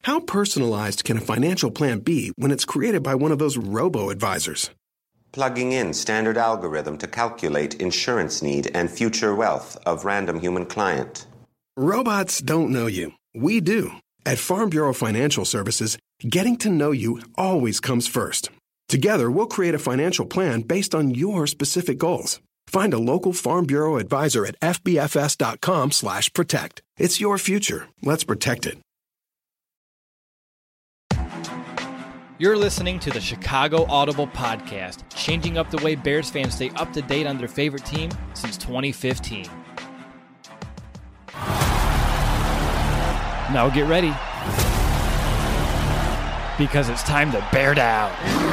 How personalized can a financial plan be when it's created by one of those robo-advisors? Plugging in standard algorithm to calculate insurance need and future wealth of random human client. Robots don't know you. We do. At Farm Bureau Financial Services, getting to know you always comes first. Together, we'll create a financial plan based on your specific goals. Find a local Farm Bureau advisor at fbfs.com/protect. It's your future. Let's protect it. You're listening to the Chicago Audible Podcast, changing up the way Bears fans stay up to date on their favorite team since 2015. Now get ready, because it's time to bear down.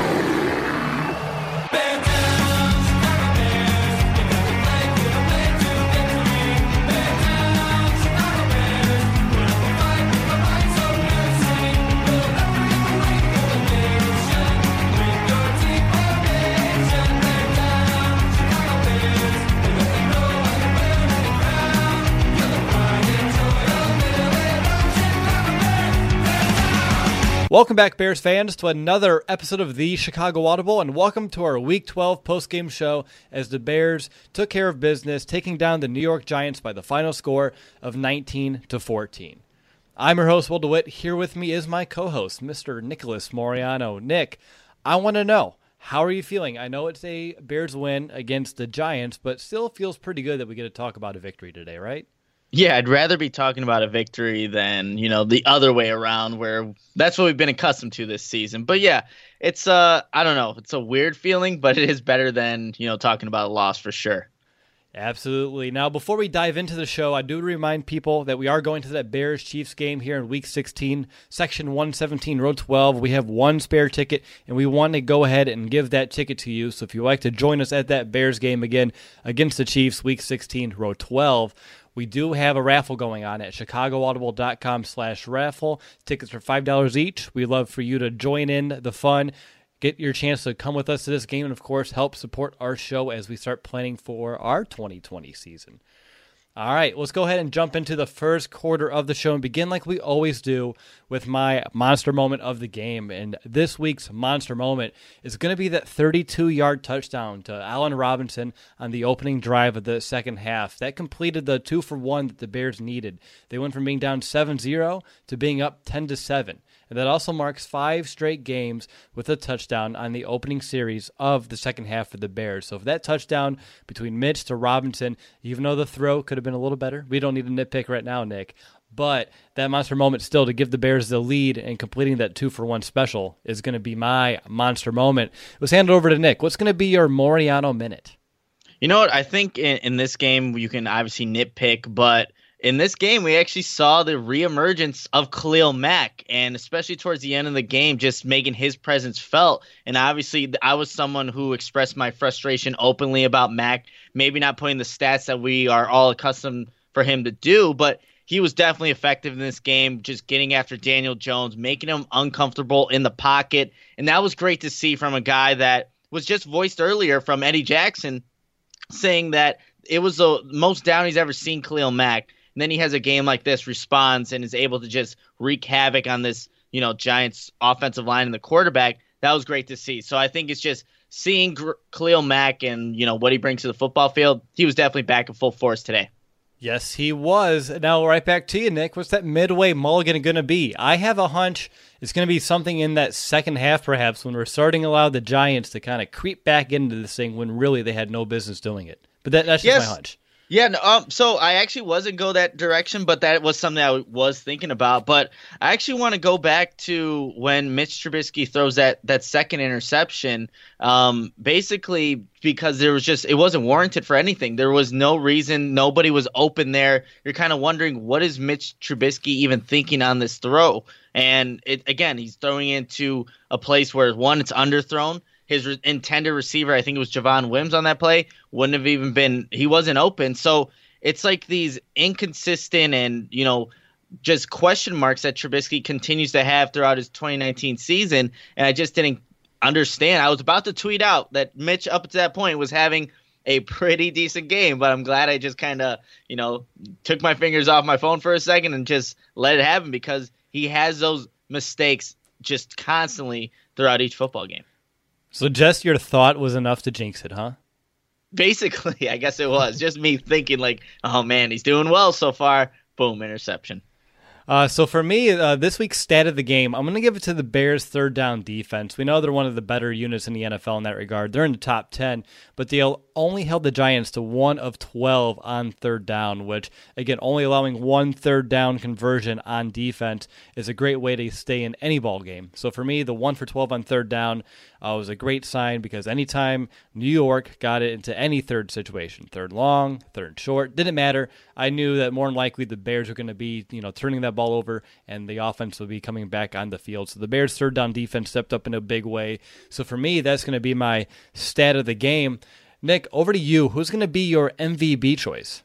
Welcome back, Bears fans, to another episode of the Chicago Audible, and welcome to our Week 12 postgame show as the Bears took care of business, taking down the New York Giants by the final score of 19-14. I'm your host, Will DeWitt. Here with me is my co-host, Mr. Nicholas Moriano. Nick, I want to know, how are you feeling? I know it's a Bears win against the Giants, but still feels pretty good that we get to talk about a victory today, right? Yeah, I'd rather be talking about a victory than, the other way around where that's what we've been accustomed to this season. But yeah, it's I don't know, it's a weird feeling, but it is better than, talking about a loss for sure. Absolutely. Now, before we dive into the show, I do remind people that we are going to that Bears-Chiefs game here in Week 16, Section 117, Row 12. We have one spare ticket, and we want to go ahead and give that ticket to you. So if you'd like to join us at that Bears game again against the Chiefs, Week 16, Row 12, we do have a raffle going on at chicagoaudible.com/raffle. Tickets are $5 each. We'd love for you to join in the fun, get your chance to come with us to this game, and, of course, help support our show as we start planning for our 2020 season. All right, let's go ahead and jump into the first quarter of the show and begin like we always do with my monster moment of the game. And this week's monster moment is going to be that 32-yard touchdown to Allen Robinson on the opening drive of the second half. That completed the 2-for-1 that the Bears needed. They went from being down 7-0 to being up 10-7. And that also marks 5 straight games with a touchdown on the opening series of the second half for the Bears. So if that touchdown between Mitch to Robinson, even though the throw could have been a little better, we don't need a nitpick right now, Nick, but that monster moment still to give the Bears the lead and completing that 2-for-1 special is going to be my monster moment. Let's hand it over to Nick. What's going to be your Moriano minute? You know what? I think in this game you can obviously nitpick, but in this game, we actually saw the reemergence of Khalil Mack, and especially towards the end of the game, just making his presence felt. And obviously, I was someone who expressed my frustration openly about Mack, maybe not putting the stats that we are all accustomed for him to do, but he was definitely effective in this game, just getting after Daniel Jones, making him uncomfortable in the pocket. And that was great to see from a guy that was just voiced earlier from Eddie Jackson, saying that it was the most down he's ever seen Khalil Mack. And then he has a game like this, responds, and is able to just wreak havoc on this, Giants offensive line and the quarterback. That was great to see. So I think it's just seeing Khalil Mack and, what he brings to the football field. He was definitely back in full force today. Yes, he was. Now, right back to you, Nick. What's that midway mulligan going to be? I have a hunch it's going to be something in that second half, perhaps, when we're starting to allow the Giants to kind of creep back into this thing when really they had no business doing it. But that's just my hunch. Yeah, no, so I actually wasn't go that direction, but that was something I was thinking about. But I actually want to go back to when Mitch Trubisky throws that second interception, basically because it wasn't warranted for anything. There was no reason. Nobody was open there. You're kind of wondering, what is Mitch Trubisky even thinking on this throw? And he's throwing into a place where, one, it's underthrown. His intended receiver, I think it was Javon Wims on that play, wouldn't have even been – he wasn't open. So it's like these inconsistent and, just question marks that Trubisky continues to have throughout his 2019 season, and I just didn't understand. I was about to tweet out that Mitch, up to that point, was having a pretty decent game, but I'm glad I just kind of, took my fingers off my phone for a second and just let it happen, because he has those mistakes just constantly throughout each football game. So just your thought was enough to jinx it, huh? Basically, I guess it was just me thinking like, oh man, he's doing well so far. Boom, interception. So for me, this week's stat of the game, I'm going to give it to the Bears' third down defense. We know they're one of the better units in the NFL in that regard. They're in the top 10, but they only held the Giants to 1 of 12 on third down, which, again, only allowing 1 third down conversion on defense is a great way to stay in any ball game. So for me, the 1 for 12 on third down was a great sign because anytime New York got it into any third situation, third long, third short, didn't matter. I knew that more than likely the Bears were going to be, turning that ball over and the offense would be coming back on the field. So the Bears' third down defense stepped up in a big way. So for me, that's going to be my stat of the game. Nick, over to you. Who's going to be your MVP choice?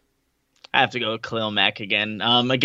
I have to go with Khalil Mack again.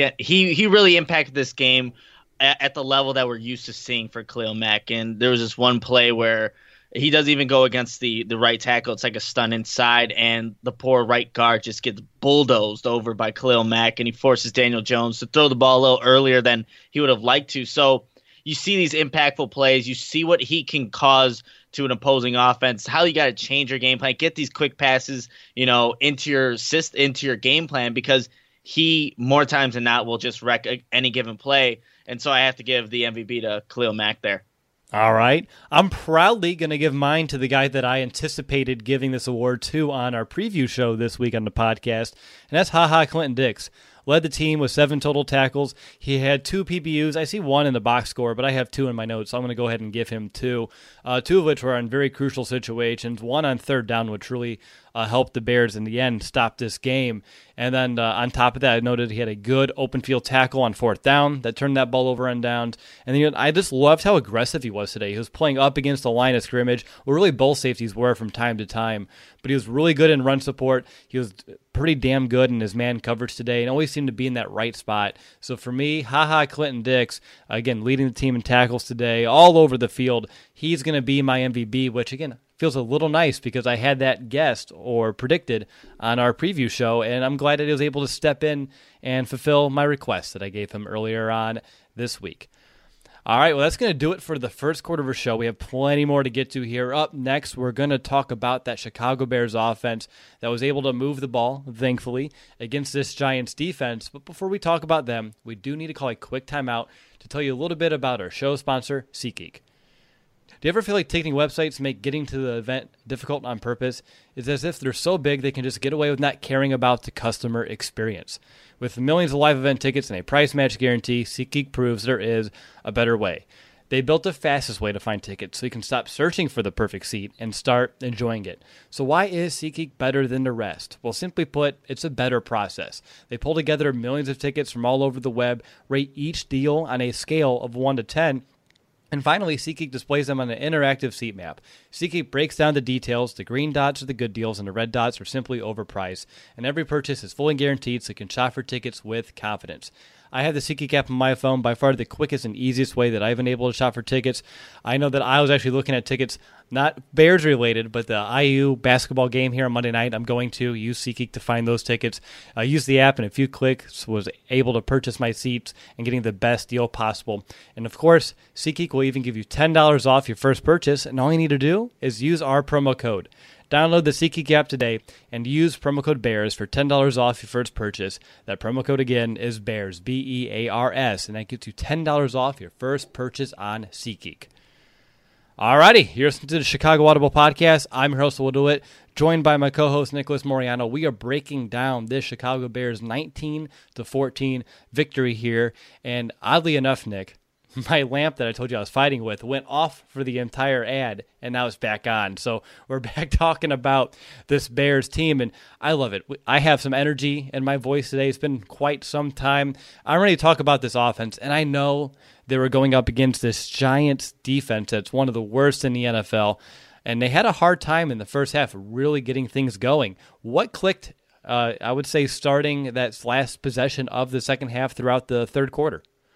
He really impacted this game at the level that we're used to seeing for Khalil Mack. And there was this one play where he doesn't even go against the right tackle. It's like a stun inside, and the poor right guard just gets bulldozed over by Khalil Mack, and he forces Daniel Jones to throw the ball a little earlier than he would have liked to. So you see these impactful plays. You see what he can cause to an opposing offense, how you got to change your game plan, get these quick passes, into your game plan, because he more times than not will just wreck any given play. And so I have to give the MVP to Khalil Mack there. All right. I'm proudly going to give mine to the guy that I anticipated giving this award to on our preview show this week on the podcast, and that's Clinton Dix. Led the team with 7 total tackles. He had 2 PBUs. I see 1 in the box score, but I have 2 in my notes, so I'm going to go ahead and give him 2. 2 of which were in very crucial situations. 1 on third down, which really helped the Bears in the end stop this game. And then on top of that, I noted he had a good open field tackle on fourth down that turned that ball over on downs. And then I just loved how aggressive he was today. He was playing up against the line of scrimmage, where really both safeties were from time to time. But he was really good in run support. He was pretty damn good in his man coverage today and always seemed to be in that right spot. So for me, Clinton Dix, again, leading the team in tackles today all over the field. He's going to be my MVP, which, again, feels a little nice because I had that guessed or predicted on our preview show, and I'm glad that he was able to step in and fulfill my request that I gave him earlier on this week. All right, well, that's going to do it for the first quarter of our show. We have plenty more to get to here. Up next, we're going to talk about that Chicago Bears offense that was able to move the ball, thankfully, against this Giants defense. But before we talk about them, we do need to call a quick timeout to tell you a little bit about our show sponsor, SeatGeek. Do you ever feel like ticketing websites make getting to the event difficult on purpose? It's as if they're so big they can just get away with not caring about the customer experience. With millions of live event tickets and a price match guarantee, SeatGeek proves there is a better way. They built the fastest way to find tickets so you can stop searching for the perfect seat and start enjoying it. So why is SeatGeek better than the rest? Well, simply put, it's a better process. They pull together millions of tickets from all over the web, rate each deal on a scale of 1 to 10, and finally, SeatGeek displays them on an interactive seat map. SeatGeek breaks down the details. The green dots are the good deals, and the red dots are simply overpriced. And every purchase is fully guaranteed, so you can shop for tickets with confidence. I have the SeatGeek app on my phone, by far the quickest and easiest way that I've been able to shop for tickets. I know that I was actually looking at tickets, not Bears related, but the IU basketball game here on Monday night. I'm going to use SeatGeek to find those tickets. I used the app, and in a few clicks was able to purchase my seats and getting the best deal possible. And of course, SeatGeek will even give you $10 off your first purchase, and all you need to do is use our promo code. Download the SeatGeek app today and use promo code BEARS for $10 off your first purchase. That promo code again is BEARS, BEARS, and that gets you $10 off your first purchase on SeatGeek. Alrighty, you're listening to the Chicago Audible Podcast. I'm your host, Will DeWitt, joined by my co-host, Nicholas Moriano. We are breaking down this Chicago Bears 19-14 victory here, and oddly enough, Nick, my lamp that I told you I was fighting with went off for the entire ad, and now it's back on. So we're back talking about this Bears team, and I love it. I have some energy in my voice today. It's been quite some time. I'm ready to talk about this offense, and I know they were going up against this Giants defense that's one of the worst in the NFL, and they had a hard time in the first half really getting things going. What clicked, I would say, starting that last possession of the second half throughout the third quarter?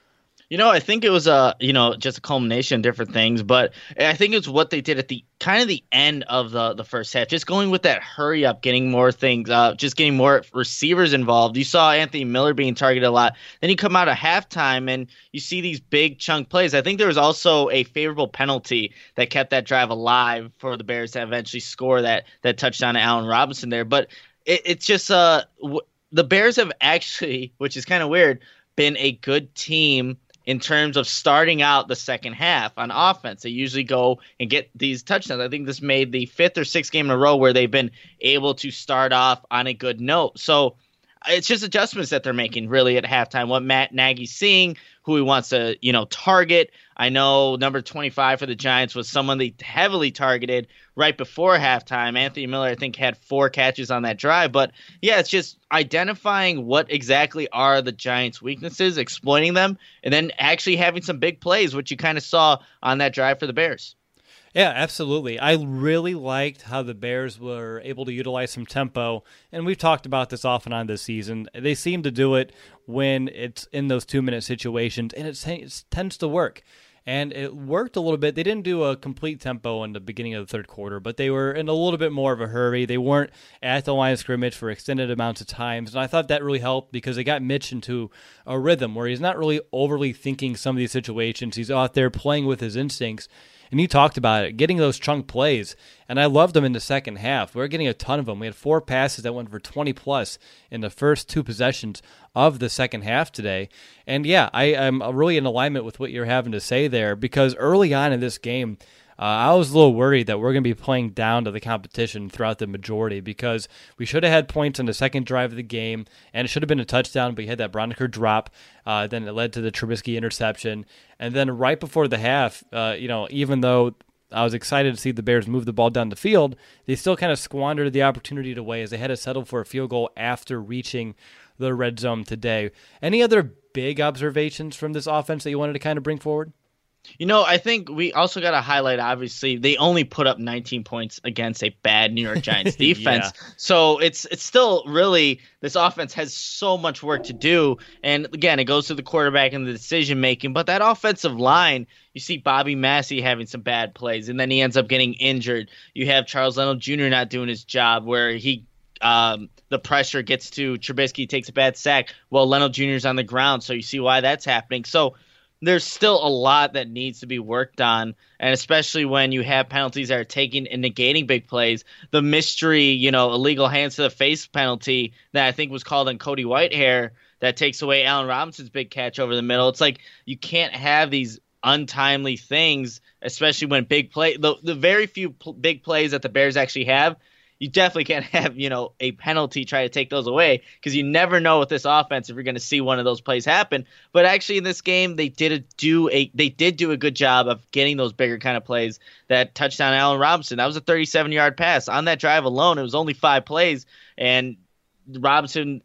I think it was just a culmination of different things, but I think it's what they did at the kind of the end of the first half, just going with that hurry up, getting more things, just getting more receivers involved. You saw Anthony Miller being targeted a lot. Then you come out of halftime and you see these big chunk plays. I think there was also a favorable penalty that kept that drive alive for the Bears to eventually score that touchdown to Allen Robinson there. But it's just the Bears have actually, which is kind of weird, been a good team in terms of starting out the second half on offense. They usually go and get these touchdowns. I think this made the 5th or 6th game in a row where they've been able to start off on a good note. So it's just adjustments that they're making really at halftime. What Matt Nagy's seeing, who he wants to, target. I know number 25 for the Giants was someone they heavily targeted right before halftime. Anthony Miller, I think, had 4 catches on that drive. But, yeah, it's just identifying what exactly are the Giants' weaknesses, exploiting them, and then actually having some big plays, which you kind of saw on that drive for the Bears. Yeah, absolutely. I really liked how the Bears were able to utilize some tempo, and we've talked about this off and on this season. They seem to do it when it's in those 2-minute situations, and it tends to work. And it worked a little bit. They didn't do a complete tempo in the beginning of the third quarter, but they were in a little bit more of a hurry. They weren't at the line of scrimmage for extended amounts of times, and I thought that really helped because they got Mitch into a rhythm where he's not really overly thinking some of these situations. He's out there playing with his instincts. And you talked about it, getting those chunk plays, and I loved them in the second half. We were getting a ton of them. We had 4 passes that went for 20-plus in the first 2 possessions of the second half today. And, yeah, I'm really in alignment with what you're having to say there because early on in this game, I was a little worried that we're going to be playing down to the competition throughout the majority because we should have had points on the second drive of the game, and it should have been a touchdown, but you had that Broniker drop. Then it led to the Trubisky interception. And then right before the half, even though I was excited to see the Bears move the ball down the field, they still kind of squandered the opportunity away as they had to settle for a field goal after reaching the red zone today. Any other big observations from this offense that you wanted to kind of bring forward? I think we also got to highlight, obviously, they only put up 19 points against a bad New York Giants defense. Yeah. So it's still really, this offense has so much work to do. And again, it goes to the quarterback and the decision making. But that offensive line, you see Bobby Massey having some bad plays, and then he ends up getting injured. You have Charles Leno Jr. not doing his job where the pressure gets to Trubisky, takes a bad sack. Well, Leno Jr. is on the ground, so you see why that's happening. So there's still a lot that needs to be worked on, and especially when you have penalties that are taking and negating big plays. The mystery, illegal hands to the face penalty that I think was called on Cody Whitehair that takes away Allen Robinson's big catch over the middle. It's like you can't have these untimely things, especially when big play. The very few big plays that the Bears actually have, you definitely can't have, a penalty try to take those away because you never know with this offense if you're going to see one of those plays happen. But actually in this game, they did do a good job of getting those bigger kind of plays. That touchdown Allen Robinson, that was a 37-yard pass. On that drive alone, it was only 5 plays, and Robinson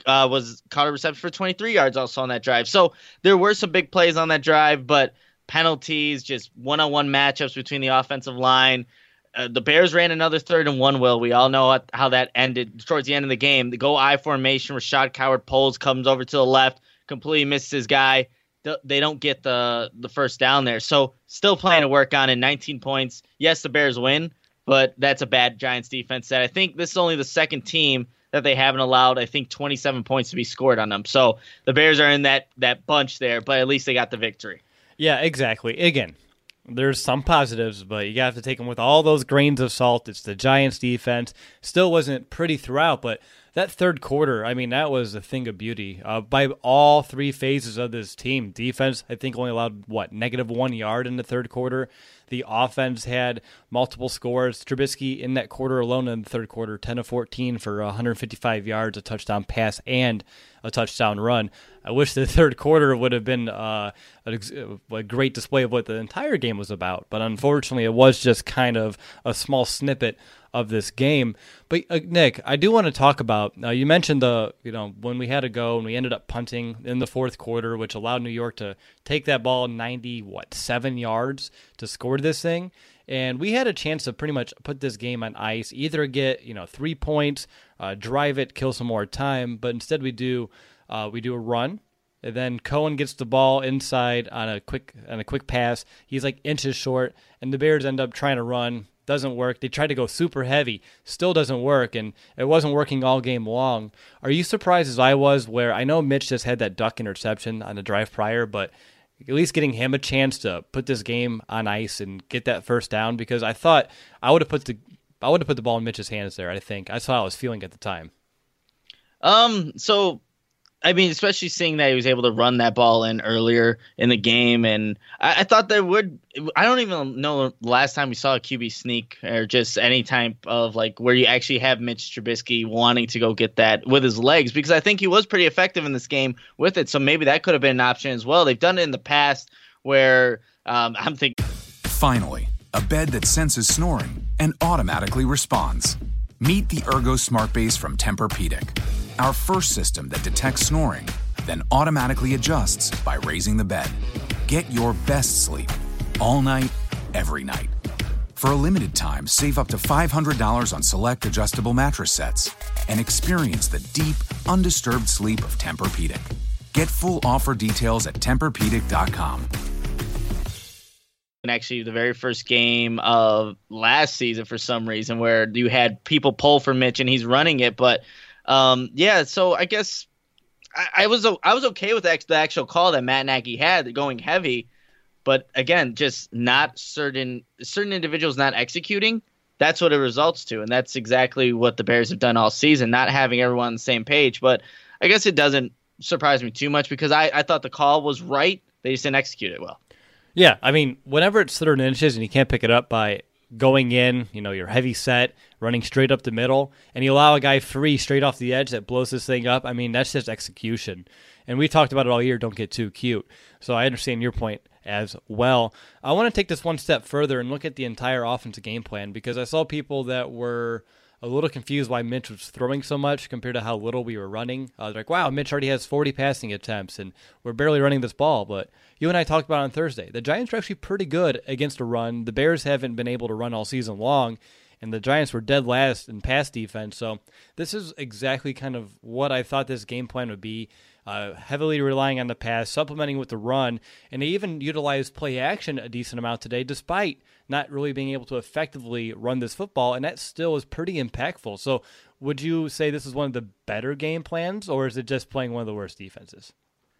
was caught a reception for 23 yards also on that drive. So there were some big plays on that drive, but penalties, just one-on-one matchups between the offensive line. The Bears ran another 3rd and 1, Will. We all know how that ended towards the end of the game. The go I formation, Rashad Coward pulls, comes over to the left, completely misses his guy. They don't get the first down there. So still playing to work on in 19 points. Yes, the Bears win, but that's a bad Giants defense that I think this is only the second team that they haven't allowed, I think, 27 points to be scored on them. So the Bears are in that bunch there, but at least they got the victory. Yeah, exactly. Again, there's some positives, but you have to take them with all those grains of salt. It's the Giants defense. Still wasn't pretty throughout, but that third quarter, that was a thing of beauty. By all 3 phases of this team, defense, I think, only allowed, -1 yard in the third quarter. The offense had multiple scores. Trubisky in that quarter alone in the third quarter, 10 of 14 for 155 yards, a touchdown pass, and a touchdown run. I wish the third quarter would have been a great display of what the entire game was about, but unfortunately it was just kind of a small snippet of this game. But Nick, I do want to talk about, you mentioned when we had to go and we ended up punting in the fourth quarter, which allowed New York to take that ball 7 yards to score this thing. And we had a chance to pretty much put this game on ice, either get 3 points, drive it, kill some more time. But instead we do a run, And then Cohen gets the ball inside on a quick pass. He's like inches short, and the Bears end up trying to run. Doesn't work. They tried to go super heavy. Still doesn't work, and it wasn't working all game long. Are you surprised as I was, where I know Mitch just had that duck interception on the drive prior, but at least getting him a chance to put this game on ice and get that first down? Because I thought I would have put the ball in Mitch's hands there. I think that's how I was feeling at the time. So I mean, especially seeing that he was able to run that ball in earlier in the game, and I thought there would. I don't even know the last time we saw a QB sneak or just any type of like where you actually have Mitch Trubisky wanting to go get that with his legs, because I think he was pretty effective in this game with it. So maybe that could have been an option as well. They've done it in the past where I'm thinking. Finally, a bed that senses snoring and automatically responds. Meet the Ergo Smart Base from Tempur-Pedic, our first system that detects snoring, then automatically adjusts by raising the bed. Get your best sleep all night, every night. For a limited time, save up to $500 on select adjustable mattress sets and experience the deep, undisturbed sleep of Tempur-Pedic. Get full offer details at TempurPedic.com. And actually the very first game of last season for some reason where you had people pull for Mitch and he's running it. But so I guess I was okay with the actual call that Matt Nagy had going heavy. But again, just not certain individuals not executing. That's what it results to. And that's exactly what the Bears have done all season, not having everyone on the same page. But I guess it doesn't surprise me too much because I thought the call was right. They just didn't execute it well. Yeah, I mean, whenever it's 3rd inches and you can't pick it up by going in, you're heavy set, running straight up the middle, and you allow a guy free straight off the edge that blows this thing up, I mean, that's just execution. And we talked about it all year, don't get too cute. So I understand your point as well. I want to take this one step further and look at the entire offensive game plan, because I saw people that were a little confused why Mitch was throwing so much compared to how little we were running. They're like, wow, Mitch already has 40 passing attempts, and we're barely running this ball. But you and I talked about it on Thursday. The Giants are actually pretty good against a run. The Bears haven't been able to run all season long, and the Giants were dead last in pass defense. So this is exactly kind of what I thought this game plan would be. Heavily relying on the pass, supplementing with the run, and they even utilized play action a decent amount today, despite not really being able to effectively run this football, and that still is pretty impactful. So would you say this is one of the better game plans, or is it just playing one of the worst defenses?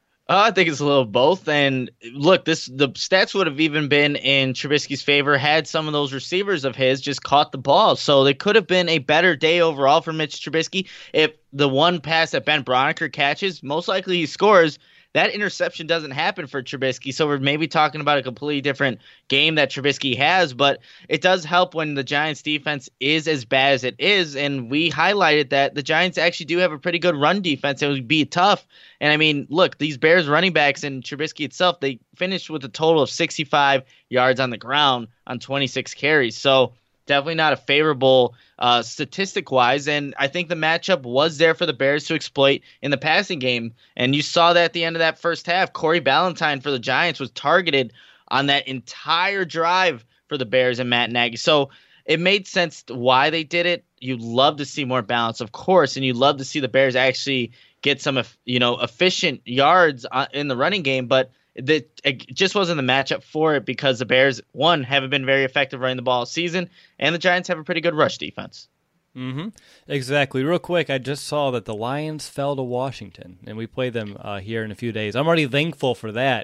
I think it's a little of both. And look, the stats would have even been in Trubisky's favor had some of those receivers of his just caught the ball. So it could have been a better day overall for Mitch Trubisky. If the one pass that Ben Braunecker catches, most likely he scores. That interception doesn't happen for Trubisky, so we're maybe talking about a completely different game that Trubisky has, but it does help when the Giants' defense is as bad as it is, and we highlighted that the Giants actually do have a pretty good run defense. It would be tough, and I mean, look, these Bears running backs and Trubisky itself, they finished with a total of 65 yards on the ground on 26 carries, so definitely not a favorable statistic-wise, and I think the matchup was there for the Bears to exploit in the passing game, and you saw that at the end of that first half. Corey Ballentine for the Giants was targeted on that entire drive for the Bears and Matt Nagy, so it made sense why they did it. You'd love to see more balance, of course, and you'd love to see the Bears actually get some efficient yards in the running game, but it just wasn't the matchup for it because the Bears, one, haven't been very effective running the ball all season, and the Giants have a pretty good rush defense. Mm-hmm. Exactly. Real quick, I just saw that the Lions fell to Washington, and we play them here in a few days. I'm already thankful for that.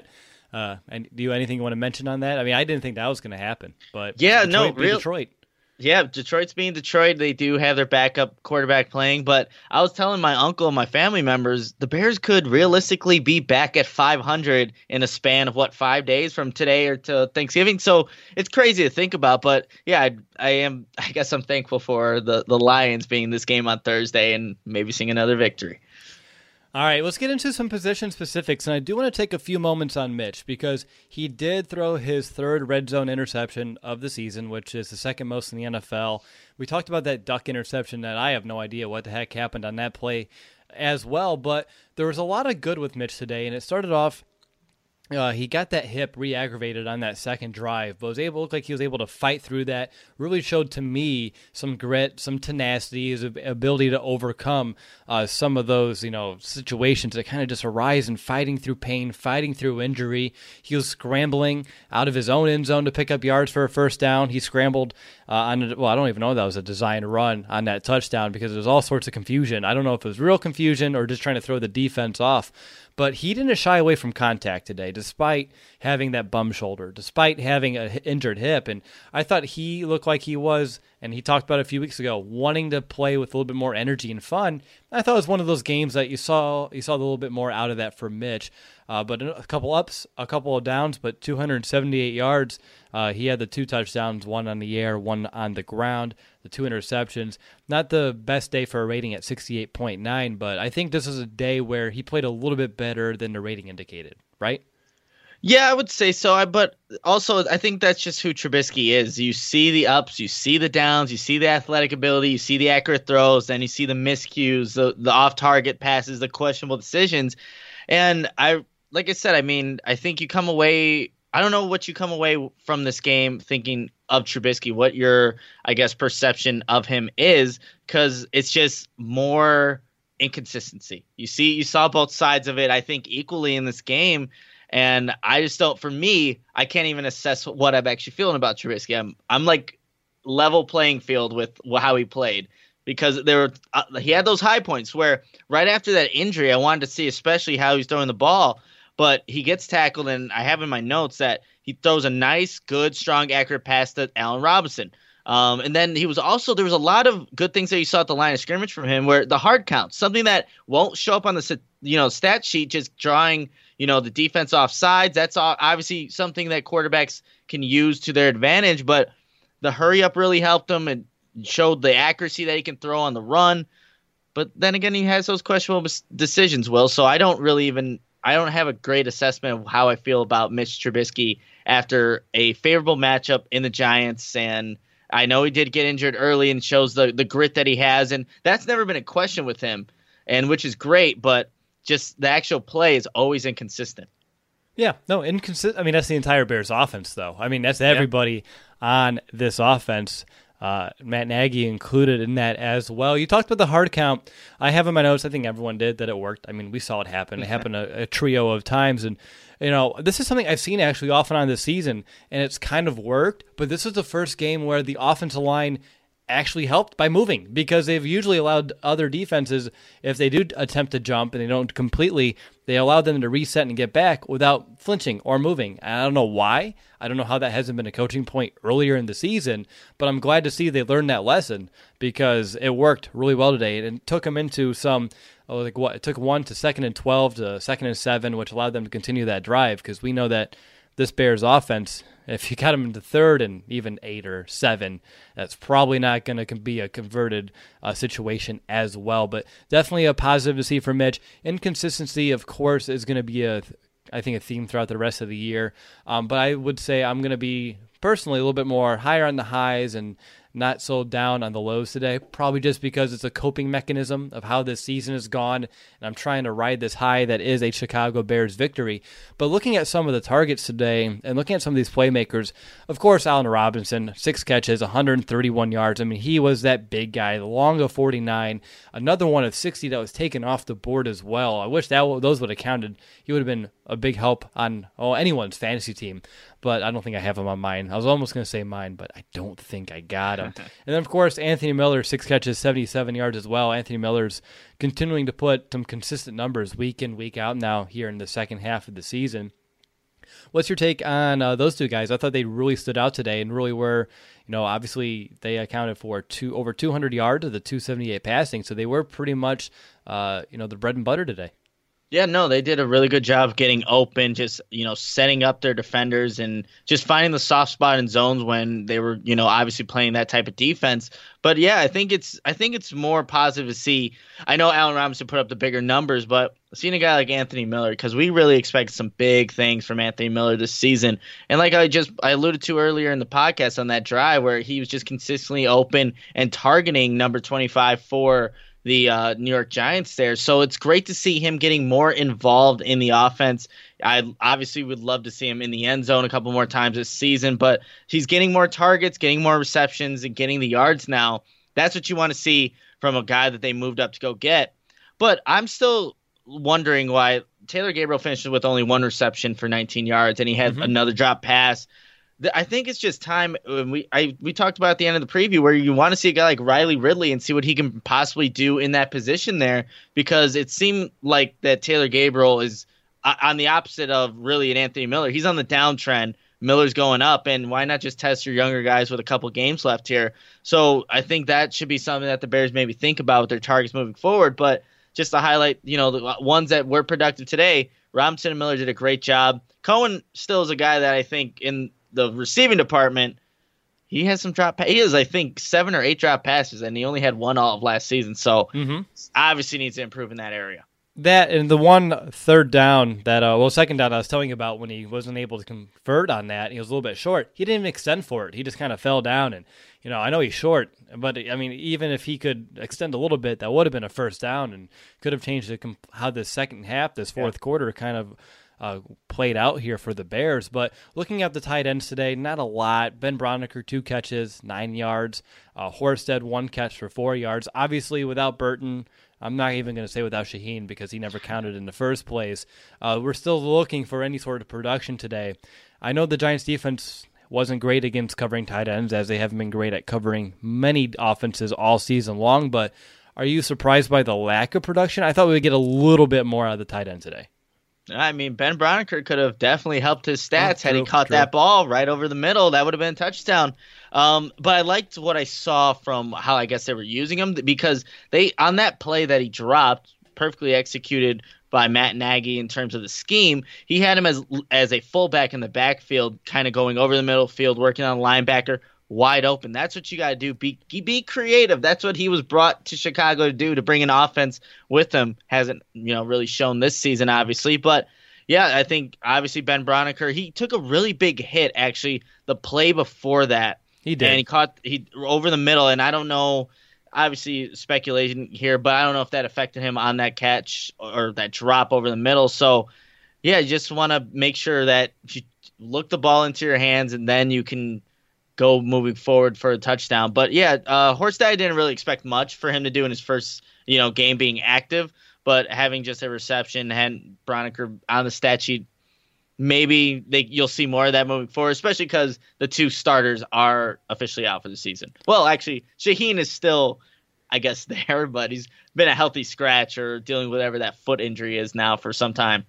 And do you have anything you want to mention on that? I mean, I didn't think that was going to happen, but yeah, Detroit. Yeah, Detroit's being Detroit. They do have their backup quarterback playing, but I was telling my uncle and my family members the Bears could realistically be back at 500 in a span of 5 days from today or to Thanksgiving. So it's crazy to think about, but yeah, I guess I'm thankful for the Lions being this game on Thursday and maybe seeing another victory. All right, let's get into some position specifics, and I do want to take a few moments on Mitch because he did throw his 3rd red zone interception of the season, which is the 2nd most in the NFL. We talked about that duck interception that I have no idea what the heck happened on that play as well, but there was a lot of good with Mitch today, and it started off He got that hip re-aggravated on that second drive, but looked like he was able to fight through that. Really showed to me some grit, some tenacity, his ability to overcome some of those, situations that kind of just arise and fighting through pain, fighting through injury. He was scrambling out of his own end zone to pick up yards for a first down. He scrambled I don't even know if that was a designed run on that touchdown because there was all sorts of confusion. I don't know if it was real confusion or just trying to throw the defense off. But he didn't shy away from contact today, despite having that bum shoulder, despite having an injured hip. And I thought he looked like he was, and he talked about it a few weeks ago, wanting to play with a little bit more energy and fun. I thought it was one of those games that you saw a little bit more out of that for Mitch. But a couple ups, a couple of downs, but 278 yards. He had the 2 touchdowns, 1 on the air, 1 on the ground, the 2 interceptions. Not the best day for a rating at 68.9, but I think this is a day where he played a little bit better than the rating indicated, right? Yeah, I would say so. But also, I think that's just who Trubisky is. You see the ups, you see the downs, you see the athletic ability, you see the accurate throws, then you see the miscues, the off-target passes, the questionable decisions. And like I said, I think you come away – I don't know what you come away from this game thinking of Trubisky, what your, I guess, perception of him is, because it's just more inconsistency. You saw both sides of it, I think, equally in this game. And I just don't, for me, I can't even assess what I'm actually feeling about Trubisky. I'm like level playing field with how he played, because he had those high points where right after that injury, I wanted to see especially how he's throwing the ball, but he gets tackled, and I have in my notes that he throws a nice, good, strong, accurate pass to Allen Robinson. And then there was a lot of good things that you saw at the line of scrimmage from him, where the hard count, something that won't show up on the stat sheet, just drawing the defense off sides. That's obviously something that quarterbacks can use to their advantage, but the hurry up really helped him and showed the accuracy that he can throw on the run. But then again, he has those questionable decisions, Will. So I don't have a great assessment of how I feel about Mitch Trubisky after a favorable matchup in the Giants. And I know he did get injured early and shows the grit that he has. And that's never been a question with him, and which is great. But just the actual play is always inconsistent. Yeah, no, inconsistent. I mean, that's the entire Bears offense, though. I mean, that's everybody on this offense. Matt Nagy included in that as well. You talked about the hard count. I have in my notes, I think everyone did, that it worked. I mean, we saw it happen. It happened a trio of times. And, this is something I've seen actually off and on this season, and it's kind of worked. But this is the first game where the offensive line actually helped by moving, because they've usually allowed other defenses, if they do attempt to jump and they don't completely, they allow them to reset and get back without flinching or moving. And I don't know why. I don't know how that hasn't been a coaching point earlier in the season, but I'm glad to see they learned that lesson, because it worked really well today. And it took them into it took 1 to 2nd and 12 to 2nd and 7, which allowed them to continue that drive, because we know that this Bears offense, if you got them into 3rd and even 8 or 7, that's probably not going to be a converted situation as well. But definitely a positive to see for Mitch. Inconsistency, of course, is going to be a theme throughout the rest of the year. But I would say I'm going to be personally a little bit more higher on the highs and not so down on the lows today, probably just because it's a coping mechanism of how this season has gone, and I'm trying to ride this high that is a Chicago Bears victory. But looking at some of the targets today and looking at some of these playmakers, of course, Allen Robinson, 6 catches, 131 yards. I mean, he was that big guy, the long of 49, another one of 60 that was taken off the board as well. I wish those would have counted. He would have been a big help on anyone's fantasy team, but I don't think I have him on mine. I was almost going to say mine, but I don't think I got him. And then, of course, Anthony Miller, 6 catches, 77 yards as well. Anthony Miller's continuing to put some consistent numbers week in, week out now here in the second half of the season. What's your take on those two guys? I thought they really stood out today and really were, obviously they accounted for over 200 yards of the 278 passing, so they were pretty much, the bread and butter today. Yeah, no, they did a really good job getting open, just, setting up their defenders and just finding the soft spot in zones when they were, obviously playing that type of defense. But yeah, I think it's more positive to see. I know Allen Robinson put up the bigger numbers, but seeing a guy like Anthony Miller, because we really expected some big things from Anthony Miller this season. And like I alluded to earlier in the podcast on that drive where he was just consistently open and targeting number 25 for the New York Giants there. So it's great to see him getting more involved in the offense. I obviously would love to see him in the end zone a couple more times this season, but he's getting more targets, getting more receptions, and getting the yards now. That's what you want to see from a guy that they moved up to go get. But I'm still wondering why Taylor Gabriel finished with only 1 reception for 19 yards, and he had another drop pass. I think it's just time. We talked about at the end of the preview where you want to see a guy like Riley Ridley and see what he can possibly do in that position there, because it seemed like that Taylor Gabriel is on the opposite of really an Anthony Miller. He's on the downtrend. Miller's going up, and why not just test your younger guys with a couple games left here? So I think that should be something that the Bears maybe think about with their targets moving forward. But just to highlight, the ones that were productive today, Robinson and Miller did a great job. Cohen still is a guy that I think in the receiving department, he has some drop. He has, I think, 7 or 8 drop passes, and he only had 1 all of last season. So obviously needs to improve in that area. That and the one third down that, second down I was telling you about when he wasn't able to convert on that, he was a little bit short. He didn't even extend for it. He just kind of fell down. And, I know he's short, but, I mean, even if he could extend a little bit, that would have been a first down and could have changed how the second half, this fourth quarter kind of played out here for the Bears. But looking at the tight ends today, not a lot. Ben Braunecker, 2 catches, 9 yards. Horsted, 1 catch for 4 yards. Obviously, without Burton, I'm not even going to say without Shaheen because he never counted in the first place. We're still looking for any sort of production today. I know the Giants defense wasn't great against covering tight ends, as they haven't been great at covering many offenses all season long, but are you surprised by the lack of production? I thought we would get a little bit more out of the tight end today. I mean, Ben Braunecker could have definitely helped his stats had he caught that ball right over the middle. That would have been a touchdown. But I liked what I saw from how I guess they were using him, because on that play that he dropped, perfectly executed by Matt Nagy in terms of the scheme, he had him as a fullback in the backfield, kind of going over the middle field, working on linebacker, wide open. That's what you got to do. Be creative. That's what he was brought to Chicago to do, to bring an offense with him. Hasn't really shown this season, obviously, but yeah, I think obviously Ben Braunecker, he took a really big hit actually the play before that. He did. And he over the middle, and I don't know, obviously speculation here, but I don't know if that affected him on that catch or that drop over the middle. So yeah, you just want to make sure that you look the ball into your hands and then you can go moving forward for a touchdown. But yeah, Horsted didn't really expect much for him to do in his first, game being active, but having just a reception and Braunecker on the stat sheet, maybe you'll see more of that moving forward, especially because the 2 starters are officially out for the season. Well, actually, Shaheen is still, I guess, there, but he's been a healthy scratch or dealing with whatever that foot injury is now for some time.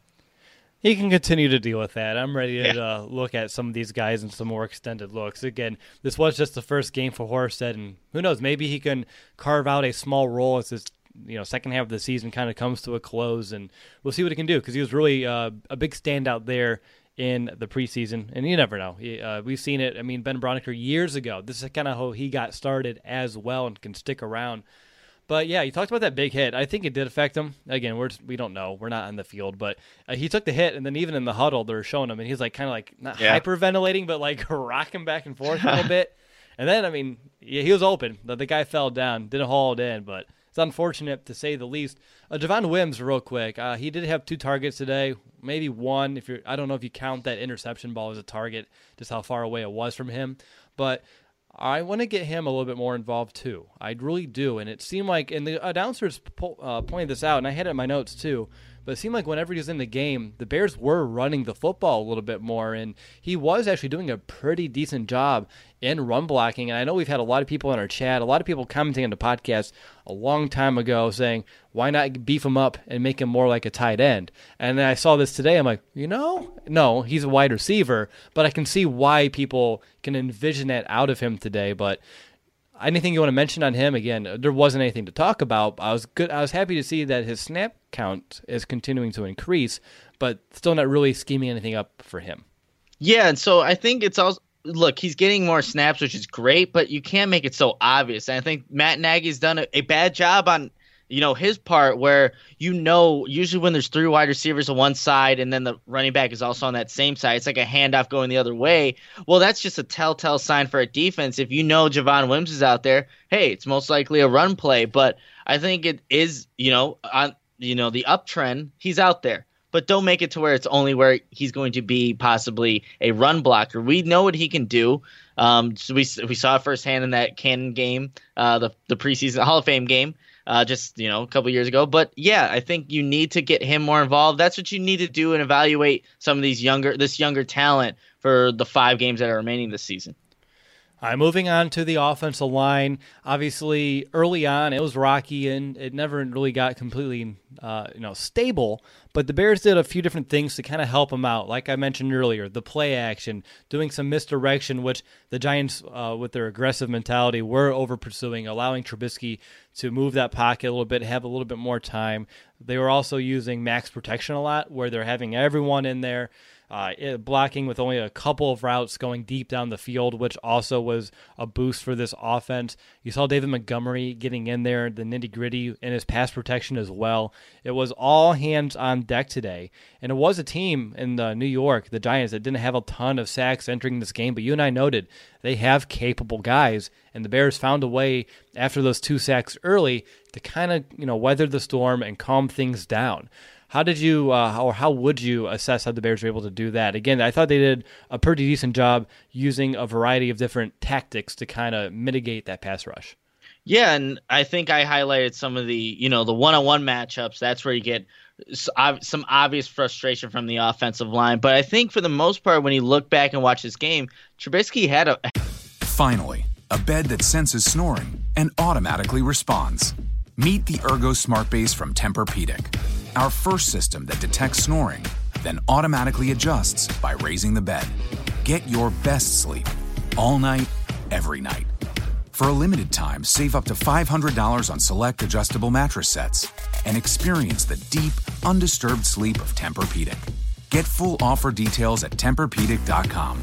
He can continue to deal with that. I'm ready to look at some of these guys in some more extended looks. Again, this was just the first game for Horsted, and who knows, maybe he can carve out a small role as this second half of the season kind of comes to a close, and we'll see what he can do, because he was really a big standout there in the preseason, and you never know. We've seen it. I mean, Ben Braunecker years ago, this is kind of how he got started as well and can stick around. But yeah, you talked about that big hit. I think it did affect him. Again, we don't know. We're not on the field, but he took the hit, and then even in the huddle, they're showing him, and he's kind of not hyperventilating, but rocking back and forth a little bit. And then, I mean, he was open. The guy fell down, didn't haul it in, but it's unfortunate to say the least. Javon Wims, real quick. He did have 2 targets today, maybe 1. I don't know if you count that interception ball as a target, just how far away it was from him. But I want to get him a little bit more involved too. I really do. And it seemed like, and the announcers pointed this out, and I had it in my notes too, but it seemed like whenever he was in the game, the Bears were running the football a little bit more, and he was actually doing a pretty decent job in run blocking. And I know we've had a lot of people in our chat, a lot of people commenting on the podcast a long time ago saying, why not beef him up and make him more like a tight end? And then I saw this today. I'm like, no, he's a wide receiver, but I can see why people can envision that out of him today. But anything you want to mention on him? Again, there wasn't anything to talk about. I was happy to see that his snap count is continuing to increase, but still not really scheming anything up for him. Yeah, and so I think it's also, look, he's getting more snaps, which is great, but you can't make it so obvious. And I think Matt Nagy's done a bad job on his part, where usually when there's 3 wide receivers on one side and then the running back is also on that same side, it's like a handoff going the other way. Well, that's just a telltale sign for a defense. If Javon Wims is out there, hey, it's most likely a run play. But I think it is, on the uptrend, he's out there. but don't make it to where it's only where he's going to be possibly a run blocker. We know what he can do. So we saw it firsthand in that Cannon game, the preseason Hall of Fame game, just a couple years ago. But yeah, I think you need to get him more involved. That's what you need to do and evaluate some of this younger talent for the 5 games that are remaining this season. All right, moving on to the offensive line. Obviously, early on, it was rocky, and it never really got completely stable. But the Bears did a few different things to kind of help them out. Like I mentioned earlier, the play action, doing some misdirection, which the Giants, with their aggressive mentality, were over-pursuing, allowing Trubisky to move that pocket a little bit, have a little bit more time. They were also using max protection a lot, where they're having everyone in there, blocking with only a couple of routes going deep down the field, which also was a boost for this offense. You saw David Montgomery getting in there, the nitty-gritty in his pass protection as well. It was all hands on deck today. And it was a team in New York, the Giants, that didn't have a ton of sacks entering this game, but you and I noted they have capable guys, and the Bears found a way after those 2 sacks early to kind of weather the storm and calm things down. How did you, or how would you assess how the Bears were able to do that? Again, I thought they did a pretty decent job using a variety of different tactics to kind of mitigate that pass rush. Yeah, and I think I highlighted some of the, the one-on-one matchups. That's where you get some obvious frustration from the offensive line. But I think for the most part, when you look back and watch this game, Trubisky had a... Finally, a bed that senses snoring and automatically responds. Meet the Ergo Smart Base from Tempur-Pedic, our first system that detects snoring, then automatically adjusts by raising the bed. Get your best sleep all night, every night. For a limited time, save up to $500 on select adjustable mattress sets and experience the deep, undisturbed sleep of Tempur-Pedic. Get full offer details at TempurPedic.com.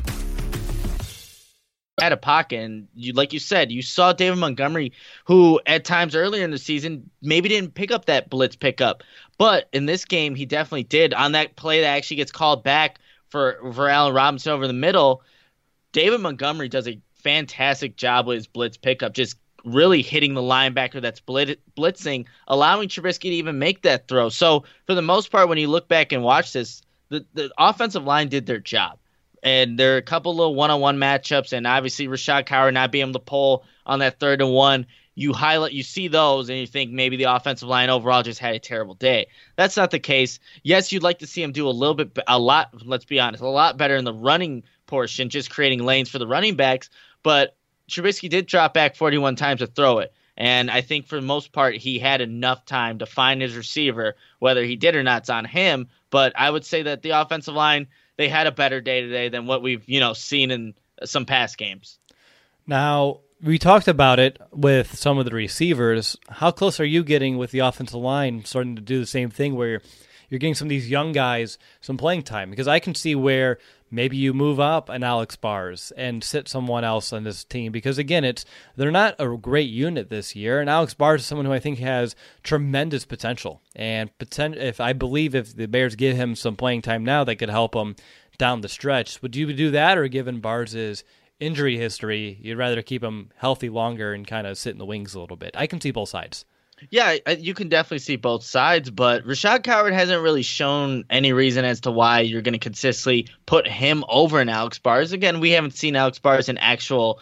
At a pocket, and like you said, you saw David Montgomery, who at times earlier in the season maybe didn't pick up that blitz pickup, but in this game he definitely did. On that play that actually gets called back for Allen Robinson over the middle, David Montgomery does a fantastic job with his blitz pickup, just really hitting the linebacker that's blitzing, allowing Trubisky to even make that throw. So for the most part, when you look back and watch this, the offensive line did their job. And there are a couple little one-on-one matchups, and obviously Rashad Coward not being able to pull on that 3rd and 1. You see those, and you think maybe the offensive line overall just had a terrible day. That's not the case. Yes, you'd like to see him do a lot better in the running portion, just creating lanes for the running backs. But Trubisky did drop back 41 times to throw it. And I think for the most part, he had enough time to find his receiver. Whether he did or not, it's on him. But I would say that the offensive line, they had a better day today than what we've seen in some past games. Now, we talked about it with some of the receivers. How close are you getting with the offensive line starting to do the same thing where you're getting some of these young guys some playing time? Because I can see where maybe you move up an Alex Bars and sit someone else on this team. Because, again, they're not a great unit this year. And Alex Bars is someone who I think has tremendous potential. And if the Bears give him some playing time now, that could help him down the stretch. Would you do that, or given Bars' injury history, you'd rather keep him healthy longer and kind of sit in the wings a little bit? I can see both sides. Yeah, you can definitely see both sides, but Rashad Coward hasn't really shown any reason as to why you're going to consistently put him over an Alex Bars. Again, we haven't seen Alex Bars in actual,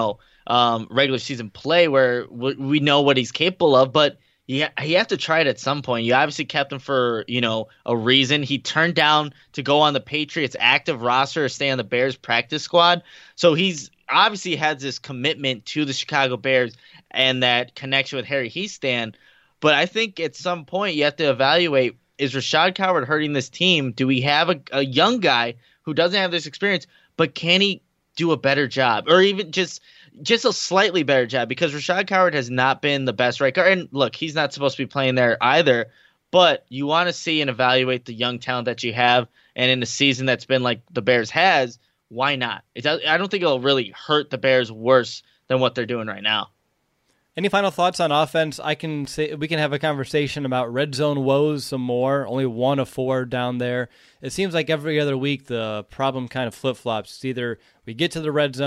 regular season play where we know what he's capable of, but you have to try it at some point. You obviously kept him for, a reason. He turned down to go on the Patriots active roster or stay on the Bears practice squad. So he's obviously has this commitment to the Chicago Bears and that connection with Harry Hiestand. But I think at some point you have to evaluate, is Rashad Coward hurting this team? Do we have a young guy who doesn't have this experience, but can he do a better job? Or even just a slightly better job? Because Rashad Coward has not been the best right guard. And look, he's not supposed to be playing there either. But you want to see and evaluate the young talent that you have. And in a season that's been like the Bears has, why not? I don't think it'll really hurt the Bears worse than what they're doing right now. Any final thoughts on offense? I can say we can have a conversation about red zone woes some more. Only 1 of 4 down there. It seems like every other week the problem kind of flip-flops. It's either we get to the red zone,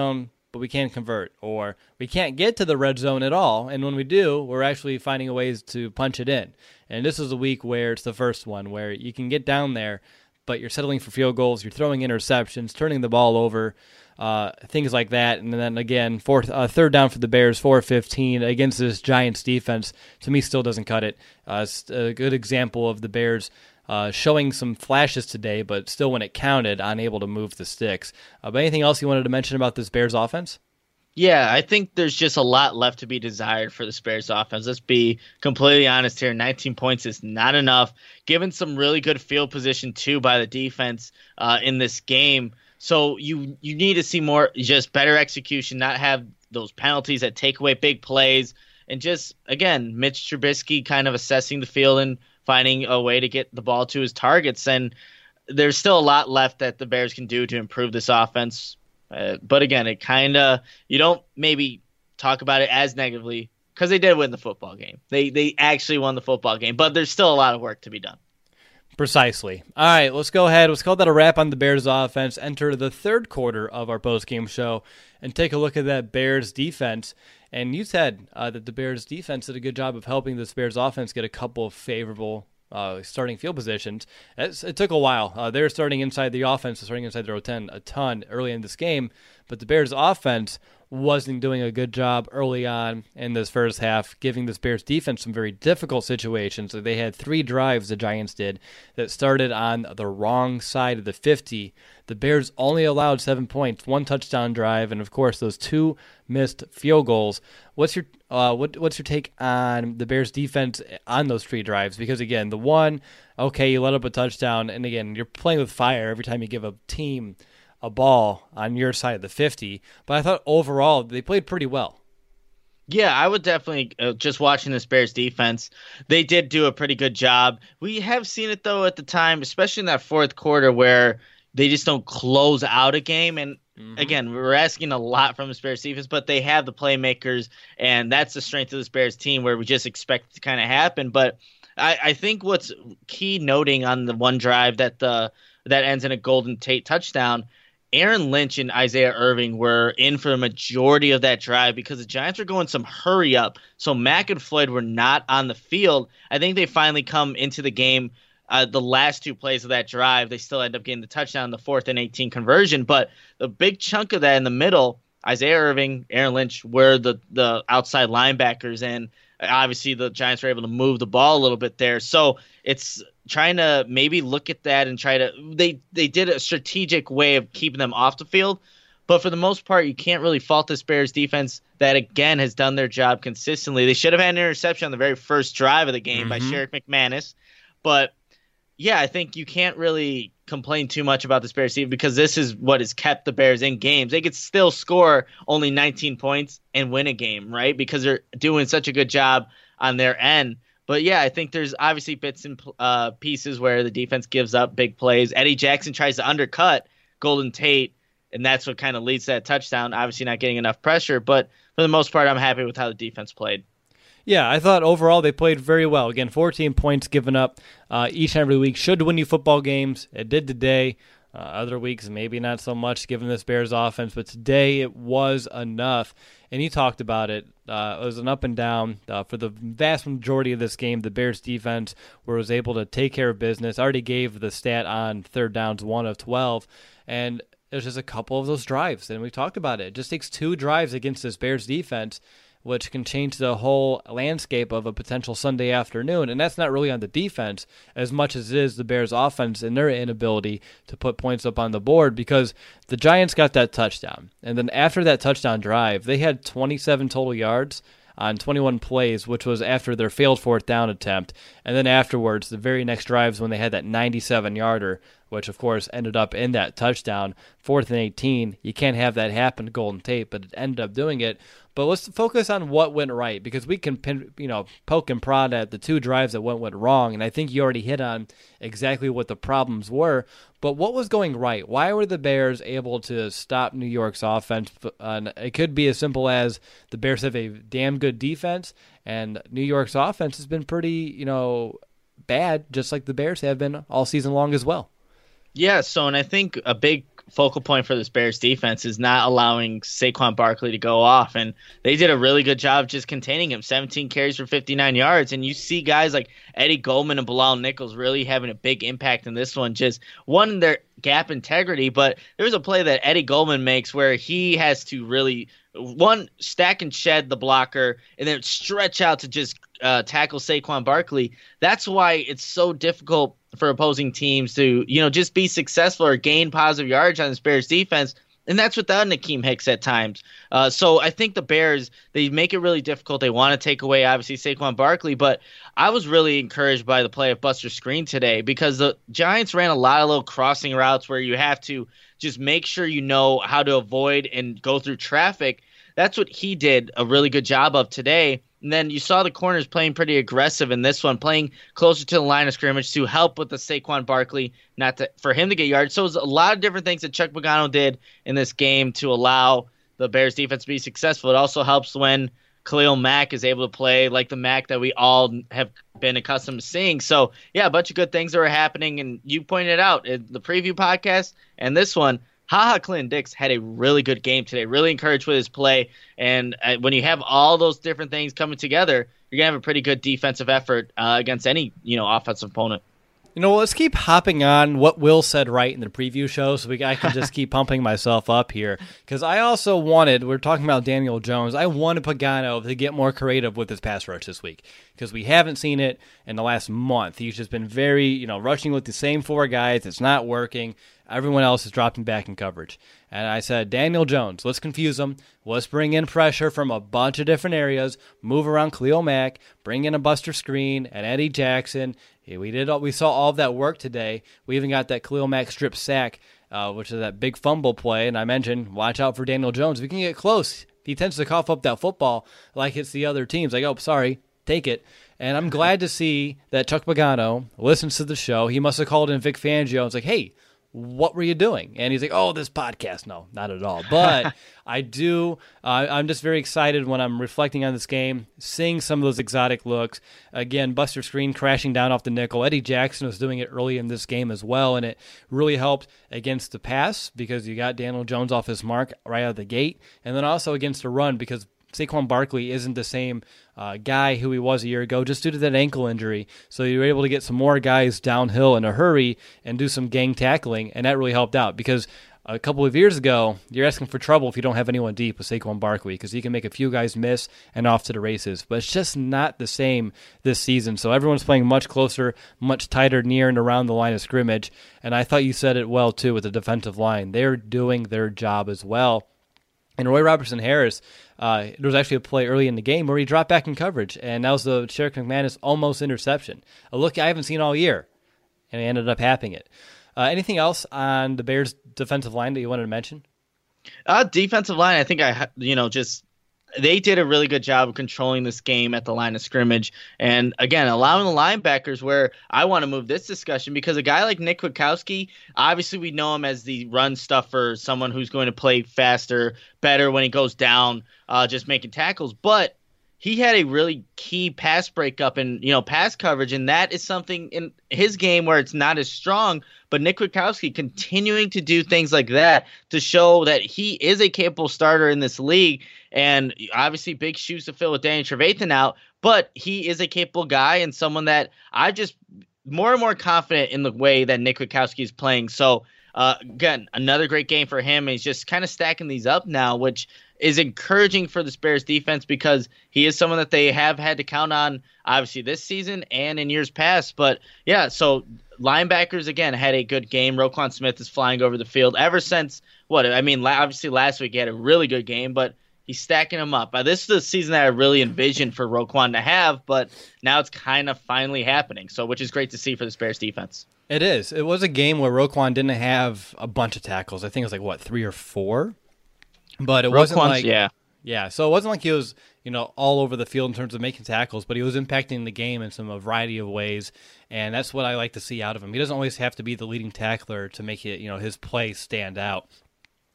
but we can't convert, or we can't get to the red zone at all. And when we do, we're actually finding ways to punch it in. And this is a week where it's the first one where you can get down there, but you're settling for field goals, you're throwing interceptions, turning the ball over, things like that. And then again, third down for the Bears, 4-15 against this Giants defense, to me still doesn't cut it. It's a good example of the Bears showing some flashes today, but still when it counted, unable to move the sticks. But anything else you wanted to mention about this Bears offense? Yeah, I think there's just a lot left to be desired for the Bears offense. Let's be completely honest here. 19 points is not enough, given some really good field position, too, by the defense in this game. So you need to see more, just better execution, not have those penalties that take away big plays, and just, again, Mitch Trubisky kind of assessing the field and finding a way to get the ball to his targets. And there's still a lot left that the Bears can do to improve this offense. But again, it kind of, you don't maybe talk about it as negatively because they did win the football game. They actually won the football game, but there's still a lot of work to be done. Precisely. All right, let's go ahead. Let's call that a wrap on the Bears offense. Enter the third quarter of our post-game show and take a look at that Bears defense. And you said that the Bears defense did a good job of helping this Bears offense get a couple of favorable starting field positions. It took a while. They were starting inside the offense, starting inside their own 10 a ton early in this game, but the Bears offense wasn't doing a good job early on in this first half, giving this Bears defense some very difficult situations. So they had 3 drives, the Giants did, that started on the wrong side of the 50. The Bears only allowed 7 points, 1 touchdown drive, and of course those 2 missed field goals. What's your take on the Bears defense on those 3 drives? Because again, the one, okay, you let up a touchdown, and again, you're playing with fire every time you give a team a ball on your side of the 50, but I thought overall they played pretty well. Yeah, I would definitely, just watching this Bears defense, they did do a pretty good job. We have seen it, though, at the time, especially in that fourth quarter where they just don't close out a game. And again, we're asking a lot from this Bears defense, but they have the playmakers, and that's the strength of this Bears team where we just expect it to kind of happen. But I think what's key noting on the one drive that ends in a Golden Tate touchdown, Aaron Lynch and Isaiah Irving were in for the majority of that drive because the Giants were going some hurry up. So Mack and Floyd were not on the field. I think they finally come into the game. The last 2 plays of that drive, they still end up getting the touchdown, the 4th and 18 conversion. But the big chunk of that in the middle, Isaiah Irving, Aaron Lynch were the outside linebackers, and obviously the Giants were able to move the ball a little bit there. So it's trying to maybe look at that and try to they did a strategic way of keeping them off the field. But for the most part, you can't really fault this Bears defense that, again, has done their job consistently. They should have had an interception on the very first drive of the game by Sherrick McManus. But, yeah, I think you can't really complain too much about this Bears team because this is what has kept the Bears in games. They could still score only 19 points and win a game, right? Because they're doing such a good job on their end. But, yeah, I think there's obviously bits and pieces where the defense gives up big plays. Eddie Jackson tries to undercut Golden Tate, and that's what kind of leads to that touchdown, obviously not getting enough pressure. But for the most part, I'm happy with how the defense played. Yeah, I thought overall they played very well. Again, 14 points given up each and every week. Should win you football games. It did today. Other weeks, maybe not so much given this Bears offense, but today it was enough. And you talked about it. It was an up and down. For the vast majority of this game, the Bears defense was able to take care of business. I already gave the stat on third downs, 1 of 12. And there's just a couple of those drives, and we talked about it. It just takes 2 drives against this Bears defense, which can change the whole landscape of a potential Sunday afternoon. And that's not really on the defense as much as it is the Bears' offense and their inability to put points up on the board, because the Giants got that touchdown. And then after that touchdown drive, they had 27 total yards on 21 plays, which was after their failed 4th down attempt. And then afterwards, the very next drives when they had that 97-yarder, which of course ended up in that touchdown, 4th and 18. You can't have that happen to Golden Tate, but it ended up doing it. But let's focus on what went right, because we can poke and prod at the 2 drives that went wrong, and I think you already hit on exactly what the problems were. But what was going right? Why were the Bears able to stop New York's offense? It could be as simple as the Bears have a damn good defense, and New York's offense has been pretty, bad, just like the Bears have been all season long as well. Yeah, and I think a big focal point for this Bears defense is not allowing Saquon Barkley to go off. And they did a really good job just containing him. 17 carries for 59 yards. And you see guys like Eddie Goldman and Bilal Nichols really having a big impact in this one. Just one, their gap integrity, but there's a play that Eddie Goldman makes where he has to really, one, stack and shed the blocker and then stretch out to just tackle Saquon Barkley. That's why it's so difficult for opposing teams to, just be successful or gain positive yards on this Bears defense. And that's without Nakeem Hicks at times. So I think the Bears, they make it really difficult. They want to take away, obviously, Saquon Barkley. But I was really encouraged by the play of Buster Skrine today because the Giants ran a lot of little crossing routes where you have to just make sure you know how to avoid and go through traffic. That's what he did a really good job of today. And then you saw the corners playing pretty aggressive in this one, playing closer to the line of scrimmage to help with the Saquon Barkley, for him to get yards. So it was a lot of different things that Chuck Pagano did in this game to allow the Bears defense to be successful. It also helps when Khalil Mack is able to play like the Mack that we all have been accustomed to seeing. So, yeah, a bunch of good things that were happening. And you pointed out in the preview podcast and this one, Clinton-Dix had a really good game today, really encouraged with his play. And when you have all those different things coming together, you're going to have a pretty good defensive effort against any, offensive opponent. Let's keep hopping on what Will said right in the preview show so I can just keep pumping myself up here. Because I also we're talking about Daniel Jones, I wanted Pagano to get more creative with his pass rush this week. Because we haven't seen it in the last month. He's just been very, rushing with the same four guys. It's not working. Everyone else is dropping back in coverage. And I said, Daniel Jones, let's confuse him. Let's bring in pressure from a bunch of different areas. Move around Khalil Mack. Bring in a Buster Skrine and Eddie Jackson. We saw all of that work today. We even got that Khalil Mack strip sack, which is that big fumble play. And I mentioned, watch out for Daniel Jones. If we can get close, he tends to cough up that football like it's the other teams. Like, oh, sorry, take it. And I'm glad to see that Chuck Pagano listens to the show. He must have called in Vic Fangio and was like, hey, what were you doing? And he's like, oh, this podcast. No, not at all. But I'm just very excited when I'm reflecting on this game, seeing some of those exotic looks. Again, Buster Skrine crashing down off the nickel. Eddie Jackson was doing it early in this game as well, and it really helped against the pass because you got Daniel Jones off his mark right out of the gate, and then also against the run because Saquon Barkley isn't the same guy who he was a year ago just due to that ankle injury. So you were able to get some more guys downhill in a hurry and do some gang tackling, and that really helped out because a couple of years ago, you're asking for trouble if you don't have anyone deep with Saquon Barkley because he can make a few guys miss and off to the races. But it's just not the same this season. So everyone's playing much closer, much tighter near and around the line of scrimmage. And I thought you said it well, too, with the defensive line. They're doing their job as well. And Roy Robertson-Harris, there was actually a play early in the game where he dropped back in coverage, and that was the Sherrick McManus almost interception. A look I haven't seen all year, and he ended up happening it. Anything else on the Bears' defensive line that you wanted to mention? Defensive line, I think they did a really good job of controlling this game at the line of scrimmage. And again, allowing the linebackers where I want to move this discussion because a guy like Nick Kwiatkowski, obviously we know him as the run stuffer, someone who's going to play faster, better when he goes down, just making tackles. But he had a really key pass breakup and, pass coverage. And that is something in his game where it's not as strong. But Nick Kwiatkowski continuing to do things like that to show that he is a capable starter in this league. And obviously big shoes to fill with Danny Trevathan out. But he is a capable guy and someone that I just more and more confident in the way that Nick Kwiatkowski is playing. So, again, another great game for him. He's just kind of stacking these up now, which is encouraging for the Bears defense because he is someone that they have had to count on, obviously, this season and in years past. But, yeah, so linebackers, again, had a good game. Roquan Smith is flying over the field ever since, obviously last week he had a really good game, but he's stacking them up. This is the season that I really envisioned for Roquan to have, but now it's kind of finally happening, which is great to see for the Bears defense. It is. It was a game where Roquan didn't have a bunch of tackles. I think it was 3 or 4? But it wasn't like yeah. So it wasn't like he was all over the field in terms of making tackles, but he was impacting the game in a variety of ways, and that's what I like to see out of him. He doesn't always have to be the leading tackler to make it his play stand out.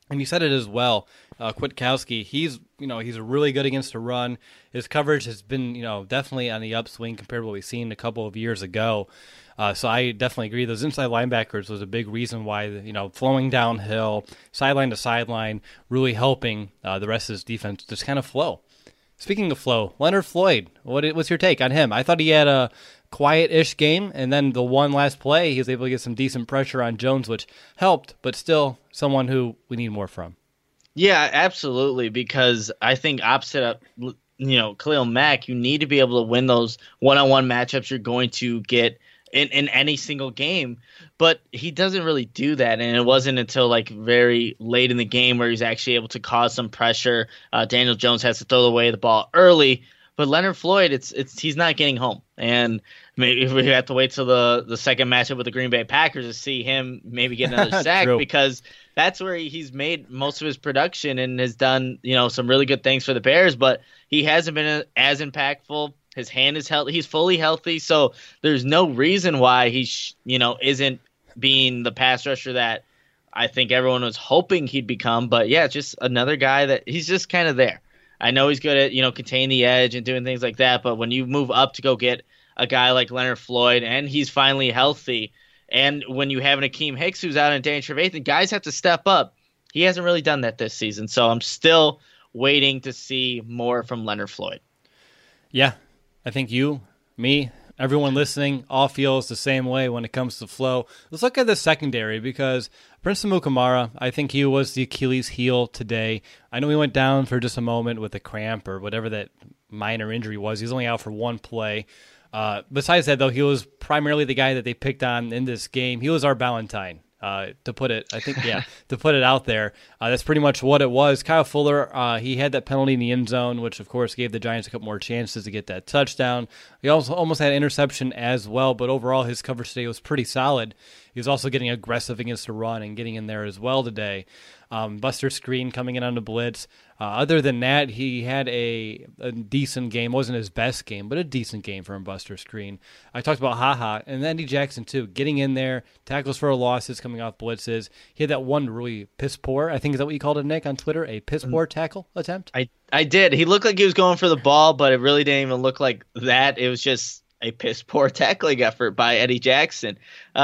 And you said it as well, Kwiatkowski. He's really good against the run. His coverage has been definitely on the upswing compared to what we've seen a couple of years ago. So I definitely agree. Those inside linebackers was a big reason why flowing downhill, sideline to sideline, really helping the rest of his defense just kind of flow. Speaking of flow, Leonard Floyd, what's your take on him? I thought he had a quiet-ish game, and then the one last play, he was able to get some decent pressure on Jones, which helped, but still someone who we need more from. Yeah, absolutely, because I think opposite of Khalil Mack, you need to be able to win those one-on-one matchups you're going to get in any single game, but he doesn't really do that, and it wasn't until like very late in the game where he's actually able to cause some pressure. Daniel Jones has to throw away the ball early, but Leonard Floyd, he's not getting home, and maybe we have to wait till the second matchup with the Green Bay Packers to see him maybe get another sack because that's where he's made most of his production and has done some really good things for the Bears, but he hasn't been as impactful. His hand is healthy. He's fully healthy, so there's no reason why he isn't being the pass rusher that I think everyone was hoping he'd become. But yeah, just another guy that he's just kind of there. I know he's good at containing the edge and doing things like that, but when you move up to go get a guy like Leonard Floyd and he's finally healthy, and when you have an Akeem Hicks who's out in Danny Trevathan, guys have to step up. He hasn't really done that this season, so I'm still waiting to see more from Leonard Floyd. Yeah. I think you, me, everyone listening all feels the same way when it comes to flow. Let's look at the secondary because Prince Amukamara, I think he was the Achilles heel today. I know he went down for just a moment with a cramp or whatever that minor injury was. He was only out for one play. Besides that, though, he was primarily the guy that they picked on in this game. He was our Valentine. To put it out there. That's pretty much what it was. Kyle Fuller, he had that penalty in the end zone, which of course gave the Giants a couple more chances to get that touchdown. He also almost had an interception as well, but overall his coverage today was pretty solid. He was also getting aggressive against the run and getting in there as well today. Buster Screen coming in on the blitz. Other than that, he had a decent game. Wasn't his best game, but a decent game from Buster Screen. I talked about HaHa and Eddie Jackson too, getting in there, tackles for losses coming off blitzes. He had that one really piss poor, I think is that what you called it, Nick, on Twitter, a piss poor tackle attempt? I did. He looked like he was going for the ball, but it really didn't even look like that. It was just a piss poor tackling effort by Eddie Jackson.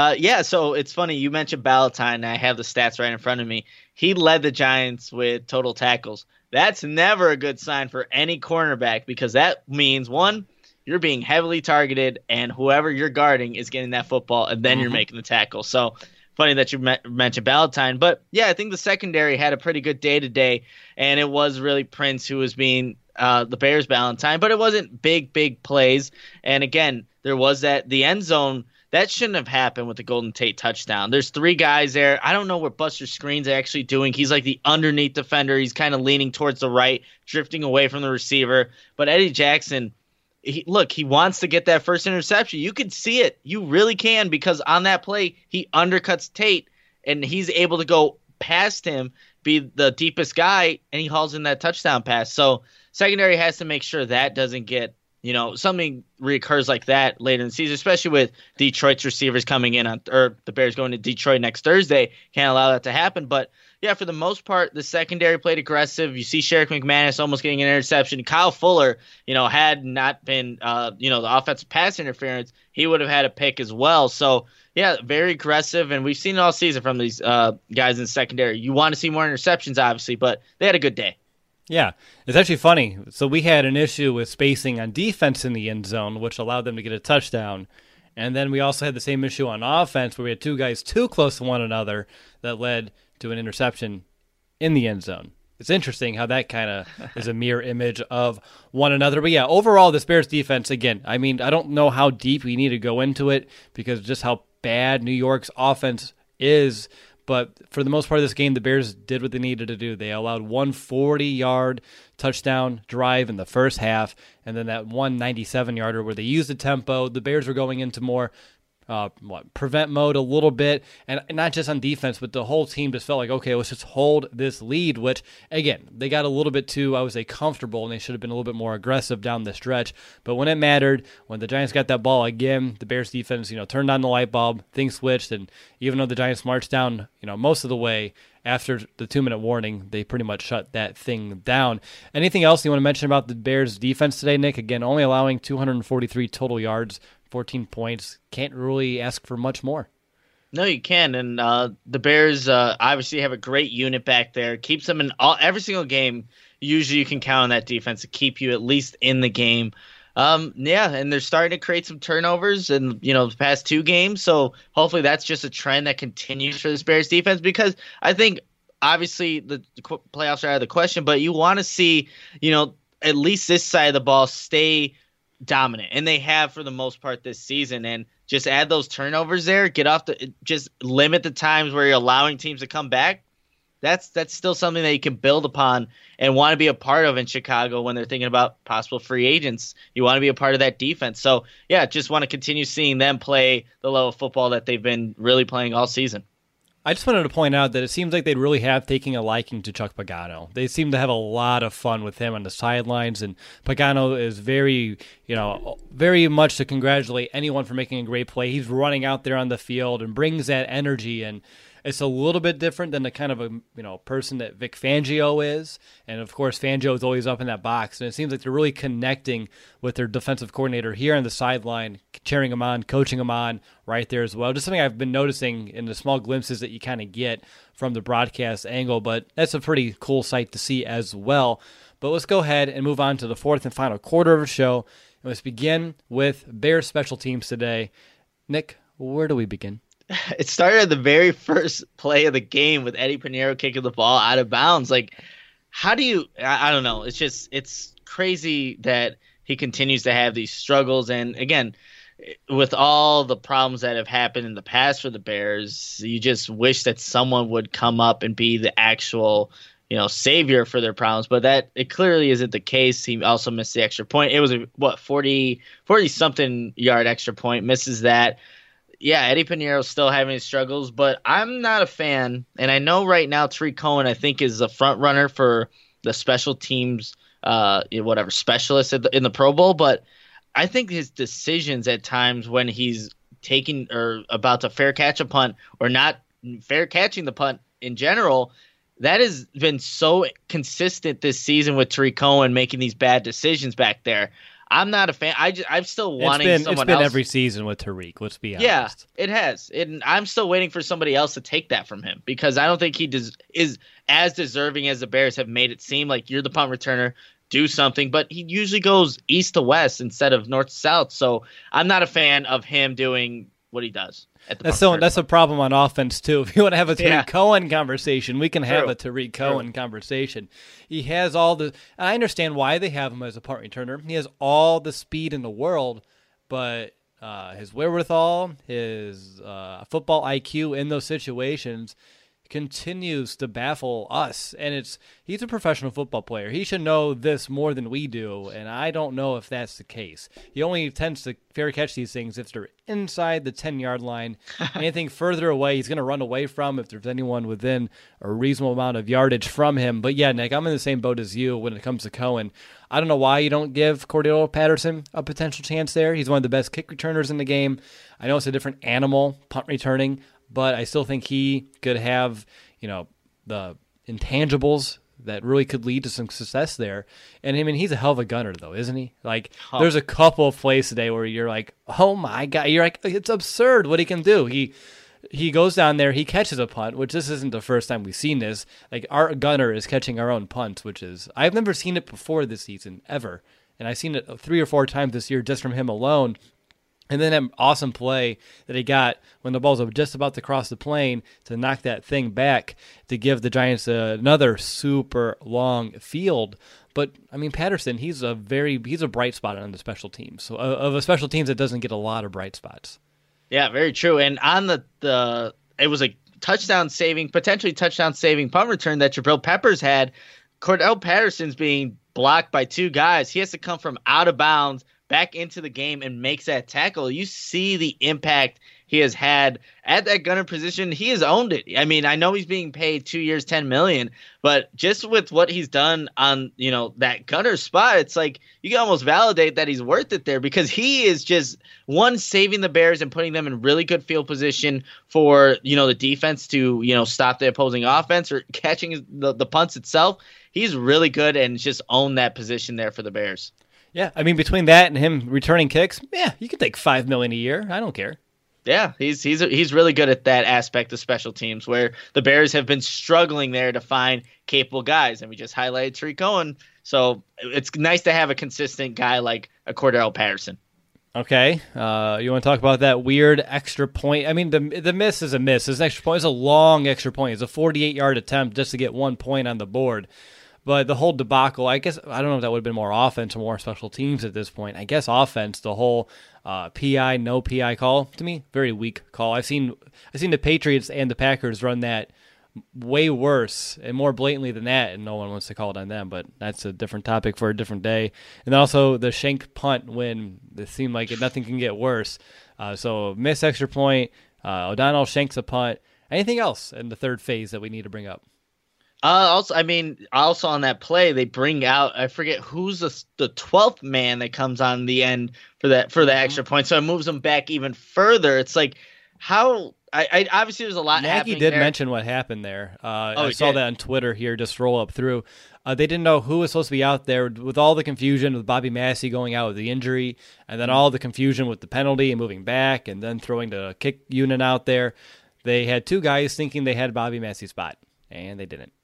So it's funny. You mentioned Ballantyne, and I have the stats right in front of me. He led the Giants with total tackles. That's never a good sign for any cornerback because that means, one, you're being heavily targeted, and whoever you're guarding is getting that football, and then you're making the tackle. So funny that you mentioned Ballantyne. But, yeah, I think the secondary had a pretty good day today, and it was really Prince who was being the Bears' Ballantyne. But it wasn't big plays. And, again, there was the end zone. That shouldn't have happened with the Golden Tate touchdown. There's three guys there. I don't know what Buster Screen's actually doing. He's like the underneath defender. He's kind of leaning towards the right, drifting away from the receiver. But Eddie Jackson, he wants to get that first interception. You can see it. You really can because on that play, he undercuts Tate, and he's able to go past him, be the deepest guy, and he hauls in that touchdown pass. So secondary has to make sure that doesn't get something reoccurs like that later in the season, especially with Detroit's receivers coming in or the Bears going to Detroit next Thursday. Can't allow that to happen. But, yeah, for the most part, the secondary played aggressive. You see Sherrick McManus almost getting an interception. Kyle Fuller, had not been, the offensive pass interference, he would have had a pick as well. So, yeah, very aggressive. And we've seen it all season from these guys in the secondary. You want to see more interceptions, obviously, but they had a good day. Yeah, it's actually funny. So we had an issue with spacing on defense in the end zone, which allowed them to get a touchdown. And then we also had the same issue on offense where we had two guys too close to one another that led to an interception in the end zone. It's interesting how that kind of is a mirror image of one another. But yeah, overall, this Bears defense, again, I mean, I don't know how deep we need to go into it because just how bad New York's offense is. But for the most part of this game, the Bears did what they needed to do. They allowed one 40-yard touchdown drive in the first half, and then that one 97-yarder where they used the tempo. The Bears were going into more prevent mode a little bit, and not just on defense, but the whole team just felt like, okay, let's just hold this lead, which, again, they got a little bit too, I would say, comfortable, and they should have been a little bit more aggressive down the stretch. But when it mattered, when the Giants got that ball again, the Bears defense, turned on the light bulb, things switched, and even though the Giants marched down, most of the way, after the 2-minute warning, they pretty much shut that thing down. Anything else you want to mention about the Bears defense today, Nick? Again, only allowing 243 total yards, 14 points. Can't really ask for much more. No, you can. And the Bears obviously have a great unit back there. Keeps them in every single game. Usually you can count on that defense to keep you at least in the game. And they're starting to create some turnovers in the past 2 games. So hopefully that's just a trend that continues for this Bears defense, because I think obviously the playoffs are out of the question, but you want to see at least this side of the ball stay dominant, and they have for the most part this season. And just add those turnovers there, just limit the times where you're allowing teams to come back. That's still something that you can build upon and want to be a part of in Chicago when they're thinking about possible free agents. You want to be a part of that defense. So, just want to continue seeing them play the level of football that they've been really playing all season. I just wanted to point out that it seems like they really have taken a liking to Chuck Pagano. They seem to have a lot of fun with him on the sidelines, and Pagano is very much to congratulate anyone for making a great play. He's running out there on the field and brings that energy, and it's a little bit different than the kind of a person that Vic Fangio is. And of course, Fangio is always up in that box. And it seems like they're really connecting with their defensive coordinator here on the sideline, cheering him on, coaching him on right there as well. Just something I've been noticing in the small glimpses that you kind of get from the broadcast angle. But that's a pretty cool sight to see as well. But let's go ahead and move on to the fourth and final quarter of the show. And let's begin with Bears special teams today. Nick, where do we begin? It started at the very first play of the game with Eddie Pinheiro kicking the ball out of bounds. Like, how do you – I don't know. It's crazy that he continues to have these struggles. And, again, with all the problems that have happened in the past for the Bears, you just wish that someone would come up and be the actual – savior for their problems, but that it clearly isn't the case. He also missed the extra point. It was 40 something yard extra point, misses that. Yeah, Eddie Pinheiro's still having his struggles, but I'm not a fan. And I know right now Tariq Cohen, I think, is a front runner for the special teams, specialist in the Pro Bowl. But I think his decisions at times when he's taking or about to fair catch a punt or not fair catching the punt in general, that has been so consistent this season with Tariq Cohen making these bad decisions back there. I'm not a fan. I'm still wanting someone else. It's been every season with Tariq, let's be honest. Yeah, it has. And I'm still waiting for somebody else to take that from him, because I don't think he is as deserving as the Bears have made it seem. Like, you're the punt returner, do something. But he usually goes east to west instead of north to south. So I'm not a fan of him doing what he does. That's a problem on offense, too. If you want to have a Tariq Cohen conversation, we can have a Tariq Cohen conversation. He has all the – I understand why they have him as a punt returner. He has all the speed in the world, but his wherewithal, his football IQ in those situations continues to baffle us. And he's a professional football player. He should know this more than we do, and I don't know if that's the case. He only tends to fair catch these things if they're inside the 10-yard line. Anything further away, he's going to run away from if there's anyone within a reasonable amount of yardage from him. But yeah, Nick, I'm in the same boat as you when it comes to Cohen. I don't know why you don't give Cordell Patterson a potential chance there. He's one of the best kick returners in the game. I know it's a different animal, punt returning, but I still think he could have, the intangibles that really could lead to some success there. And I mean, he's a hell of a gunner, though, isn't he? Like, there's a couple of plays today where you're like, oh my God, you're like, it's absurd what he can do. He goes down there, he catches a punt, which this isn't the first time we've seen this. Like, our gunner is catching our own punts, which is, I've never seen it before this season, ever. And I've seen it 3 or 4 times this year just from him alone. And then an awesome play that he got when the ball's just about to cross the plane to knock that thing back to give the Giants another super long field. But, I mean, Patterson, he's a bright spot on the special teams. So, of a special teams that doesn't get a lot of bright spots. Yeah, very true. And on it was a potentially touchdown saving punt return that Jabril Peppers had. Cordell Patterson's being blocked by 2 guys. He has to come from out of bounds back into the game and makes that tackle. You see the impact he has had at that gunner position, he has owned it. I mean, I know he's being paid 2 years, $10 million, but just with what he's done on, that gunner spot, it's like you can almost validate that he's worth it there, because he is just saving the Bears and putting them in really good field position for, the defense to, stop the opposing offense or catching the punts itself. He's really good and just owned that position there for the Bears. Yeah, I mean, between that and him returning kicks, you could take $5 million a year. I don't care. Yeah, he's really good at that aspect of special teams, where the Bears have been struggling there to find capable guys, and we just highlighted Tariq Cohen. So it's nice to have a consistent guy like a Cordell Patterson. Okay, you want to talk about that weird extra point? I mean, the miss is a miss. This extra point is a long extra point. It's a 48-yard attempt just to get 1 point on the board. But the whole debacle, I guess, I don't know if that would have been more offense or more special teams at this point. I guess offense, the whole PI, no PI call, to me, very weak call. I've seen the Patriots and the Packers run that way worse and more blatantly than that, and no one wants to call it on them, but that's a different topic for a different day. And then also the Schenk punt, when it seemed like nothing can get worse. So miss extra point, O'Donnell Schenks a punt. Anything else in the third phase that we need to bring up? Also on that play, they bring out, I forget who's the 12th man that comes on the end for the extra point. So it moves them back even further. It's like, how I obviously there's a lot happening there. Nagy did mention what happened there. I saw that on Twitter here, just roll up through. They didn't know who was supposed to be out there with all the confusion with Bobby Massey going out with the injury, and then all the confusion with the penalty and moving back, and then throwing the kick unit out there. They had two guys thinking they had Bobby Massey's spot, and they didn't.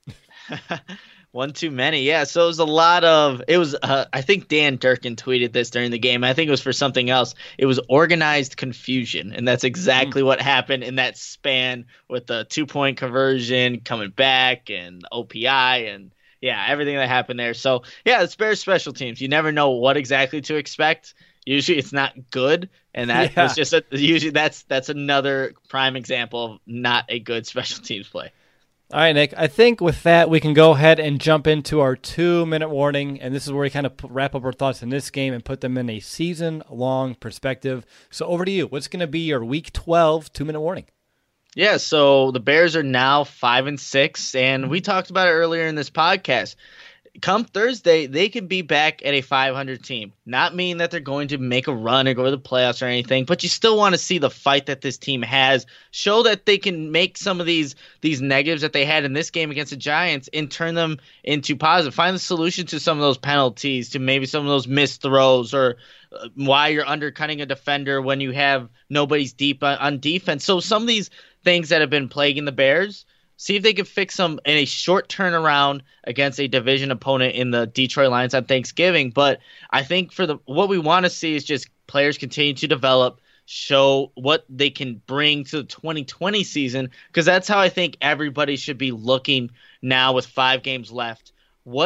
One too many. Yeah, so it was I think Dan Durkin tweeted this during the game. I think it was for something else. It was organized confusion, and that's exactly what happened in that span with the 2-point conversion coming back and OPI and everything that happened there. So it's Bears special teams. You never know what exactly to expect. Usually it's not good, and that was just usually that's another prime example of not a good special teams play. All right, Nick, I think with that, we can go ahead and jump into our 2-minute warning, and this is where we kind of wrap up our thoughts in this game and put them in a season-long perspective. So over to you. What's going to be your Week 12 2-minute warning? Yeah, so the Bears are now 5-6, and we talked about it earlier in this podcast. Come Thursday, they could be back at a 500 team. Not mean that they're going to make a run or go to the playoffs or anything, but you still want to see the fight that this team has. Show that they can make some of these negatives that they had in this game against the Giants and turn them into positive. Find the solution to some of those penalties, to maybe some of those missed throws, or why you're undercutting a defender when you have nobody's deep on defense. So some of these things that have been plaguing the Bears, see if they can fix them in a short turnaround against a division opponent in the Detroit Lions on Thanksgiving. But I think what we want to see is just players continue to develop, show what they can bring to the 2020 season, because that's how I think everybody should be looking now with 5 games left. Who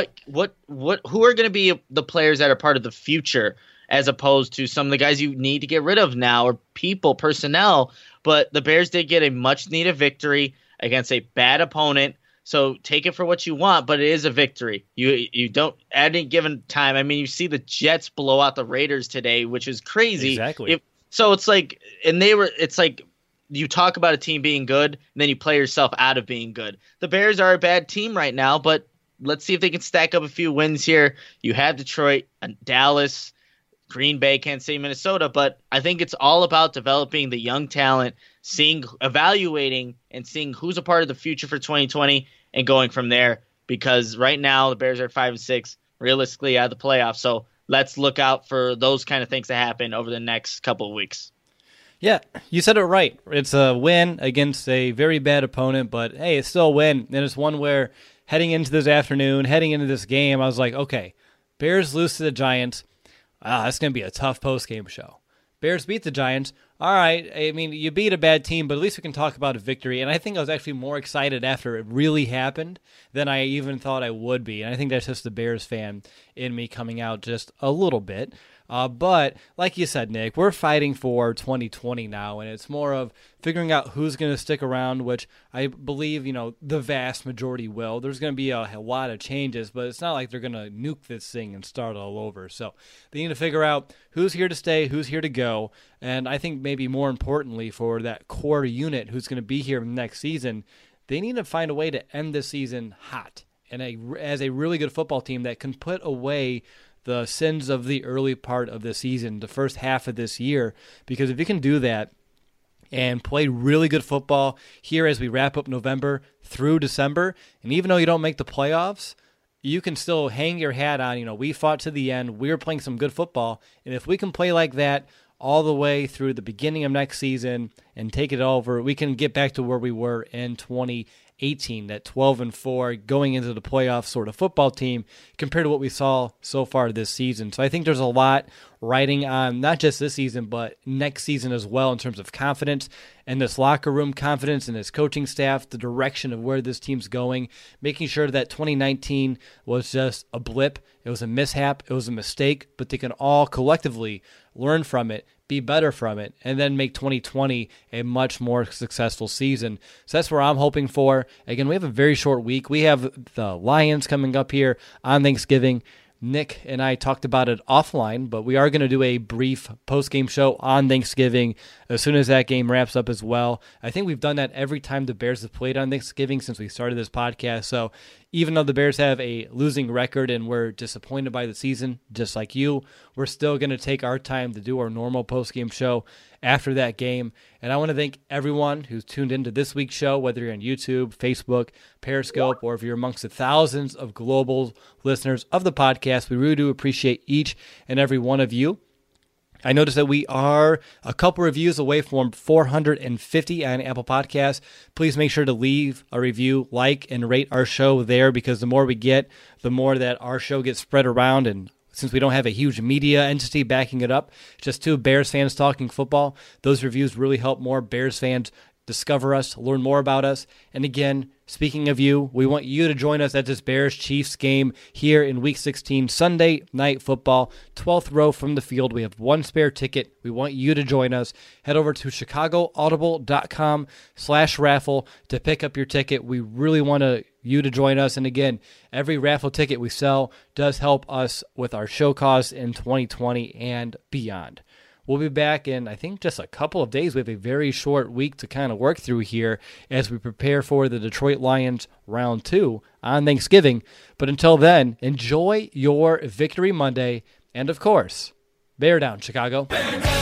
are going to be the players that are part of the future, as opposed to some of the guys you need to get rid of now, or personnel. But the Bears did get a much-needed victory against a bad opponent, so take it for what you want, but it is a victory. You don't, at any given time, I mean, you see the Jets blow out the Raiders today, which is crazy. Exactly. So it's like, it's like you talk about a team being good, and then you play yourself out of being good. The Bears are a bad team right now, but let's see if they can stack up a few wins here. You have Detroit, Dallas, Green Bay, Kansas City, Minnesota, but I think it's all about developing the young talent, evaluating and seeing who's a part of the future for 2020 and going from there, because right now the Bears are at 5-6, realistically out of the playoffs. So let's look out for those kind of things to happen over the next couple of weeks. Yeah, you said it right. It's a win against a very bad opponent, but hey, it's still a win. And it's one where heading into this afternoon, heading into this game, I was like, okay, Bears lose to the Giants. That's going to be a tough post-game show. Bears beat the Giants. All right, I mean, you beat a bad team, but at least we can talk about a victory. And I think I was actually more excited after it really happened than I even thought I would be. And I think that's just the Bears fan in me coming out just a little bit. But like you said, Nick, we're fighting for 2020 now, and it's more of figuring out who's going to stick around, which I believe, the vast majority will. There's going to be a lot of changes, but it's not like they're going to nuke this thing and start all over. So they need to figure out who's here to stay, who's here to go, and I think maybe more importantly for that core unit who's going to be here next season, they need to find a way to end this season hot and as a really good football team that can put away the sins of the early part of the season, the first half of this year, because if you can do that and play really good football here as we wrap up November through December, and even though you don't make the playoffs, you can still hang your hat on, we fought to the end, we were playing some good football, and if we can play like that all the way through the beginning of next season and take it over, we can get back to where we were in 2018, that 12-4 going into the playoffs sort of football team compared to what we saw so far this season. So I think there's a lot riding on not just this season, but next season as well in terms of confidence and this locker room confidence and this coaching staff, the direction of where this team's going, making sure that 2019 was just a blip. It was a mishap. It was a mistake, but they can all collectively learn from it, be better from it, and then make 2020 a much more successful season. So that's where I'm hoping for. Again, we have a very short week. We have the Lions coming up here on Thanksgiving. Nick and I talked about it offline, but we are going to do a brief post-game show on Thanksgiving as soon as that game wraps up as well. I think we've done that every time the Bears have played on Thanksgiving since we started this podcast. So even though the Bears have a losing record and we're disappointed by the season, just like you, we're still going to take our time to do our normal post-game show after that game. And I want to thank everyone who's tuned into this week's show, whether you're on YouTube, Facebook, Periscope, or if you're amongst the thousands of global listeners of the podcast. We really do appreciate each and every one of you. I noticed that we are a couple reviews away from 450 on Apple Podcasts. Please make sure to leave a review, like, and rate our show there, because the more we get, the more that our show gets spread around. And since we don't have a huge media entity backing it up, just two Bears fans talking football, those reviews really help more Bears fans discover us, learn more about us. And again, speaking of you, we want you to join us at this Bears-Chiefs game here in Week 16, Sunday Night Football, 12th row from the field. We have one spare ticket. We want you to join us. Head over to chicagoaudible.com/raffle to pick up your ticket. We really want you to join us. And again, every raffle ticket we sell does help us with our show costs in 2020 and beyond. We'll be back in, I think, just a couple of days. We have a very short week to kind of work through here as we prepare for the Detroit Lions round 2 on Thanksgiving. But until then, enjoy your Victory Monday. And, of course, bear down, Chicago.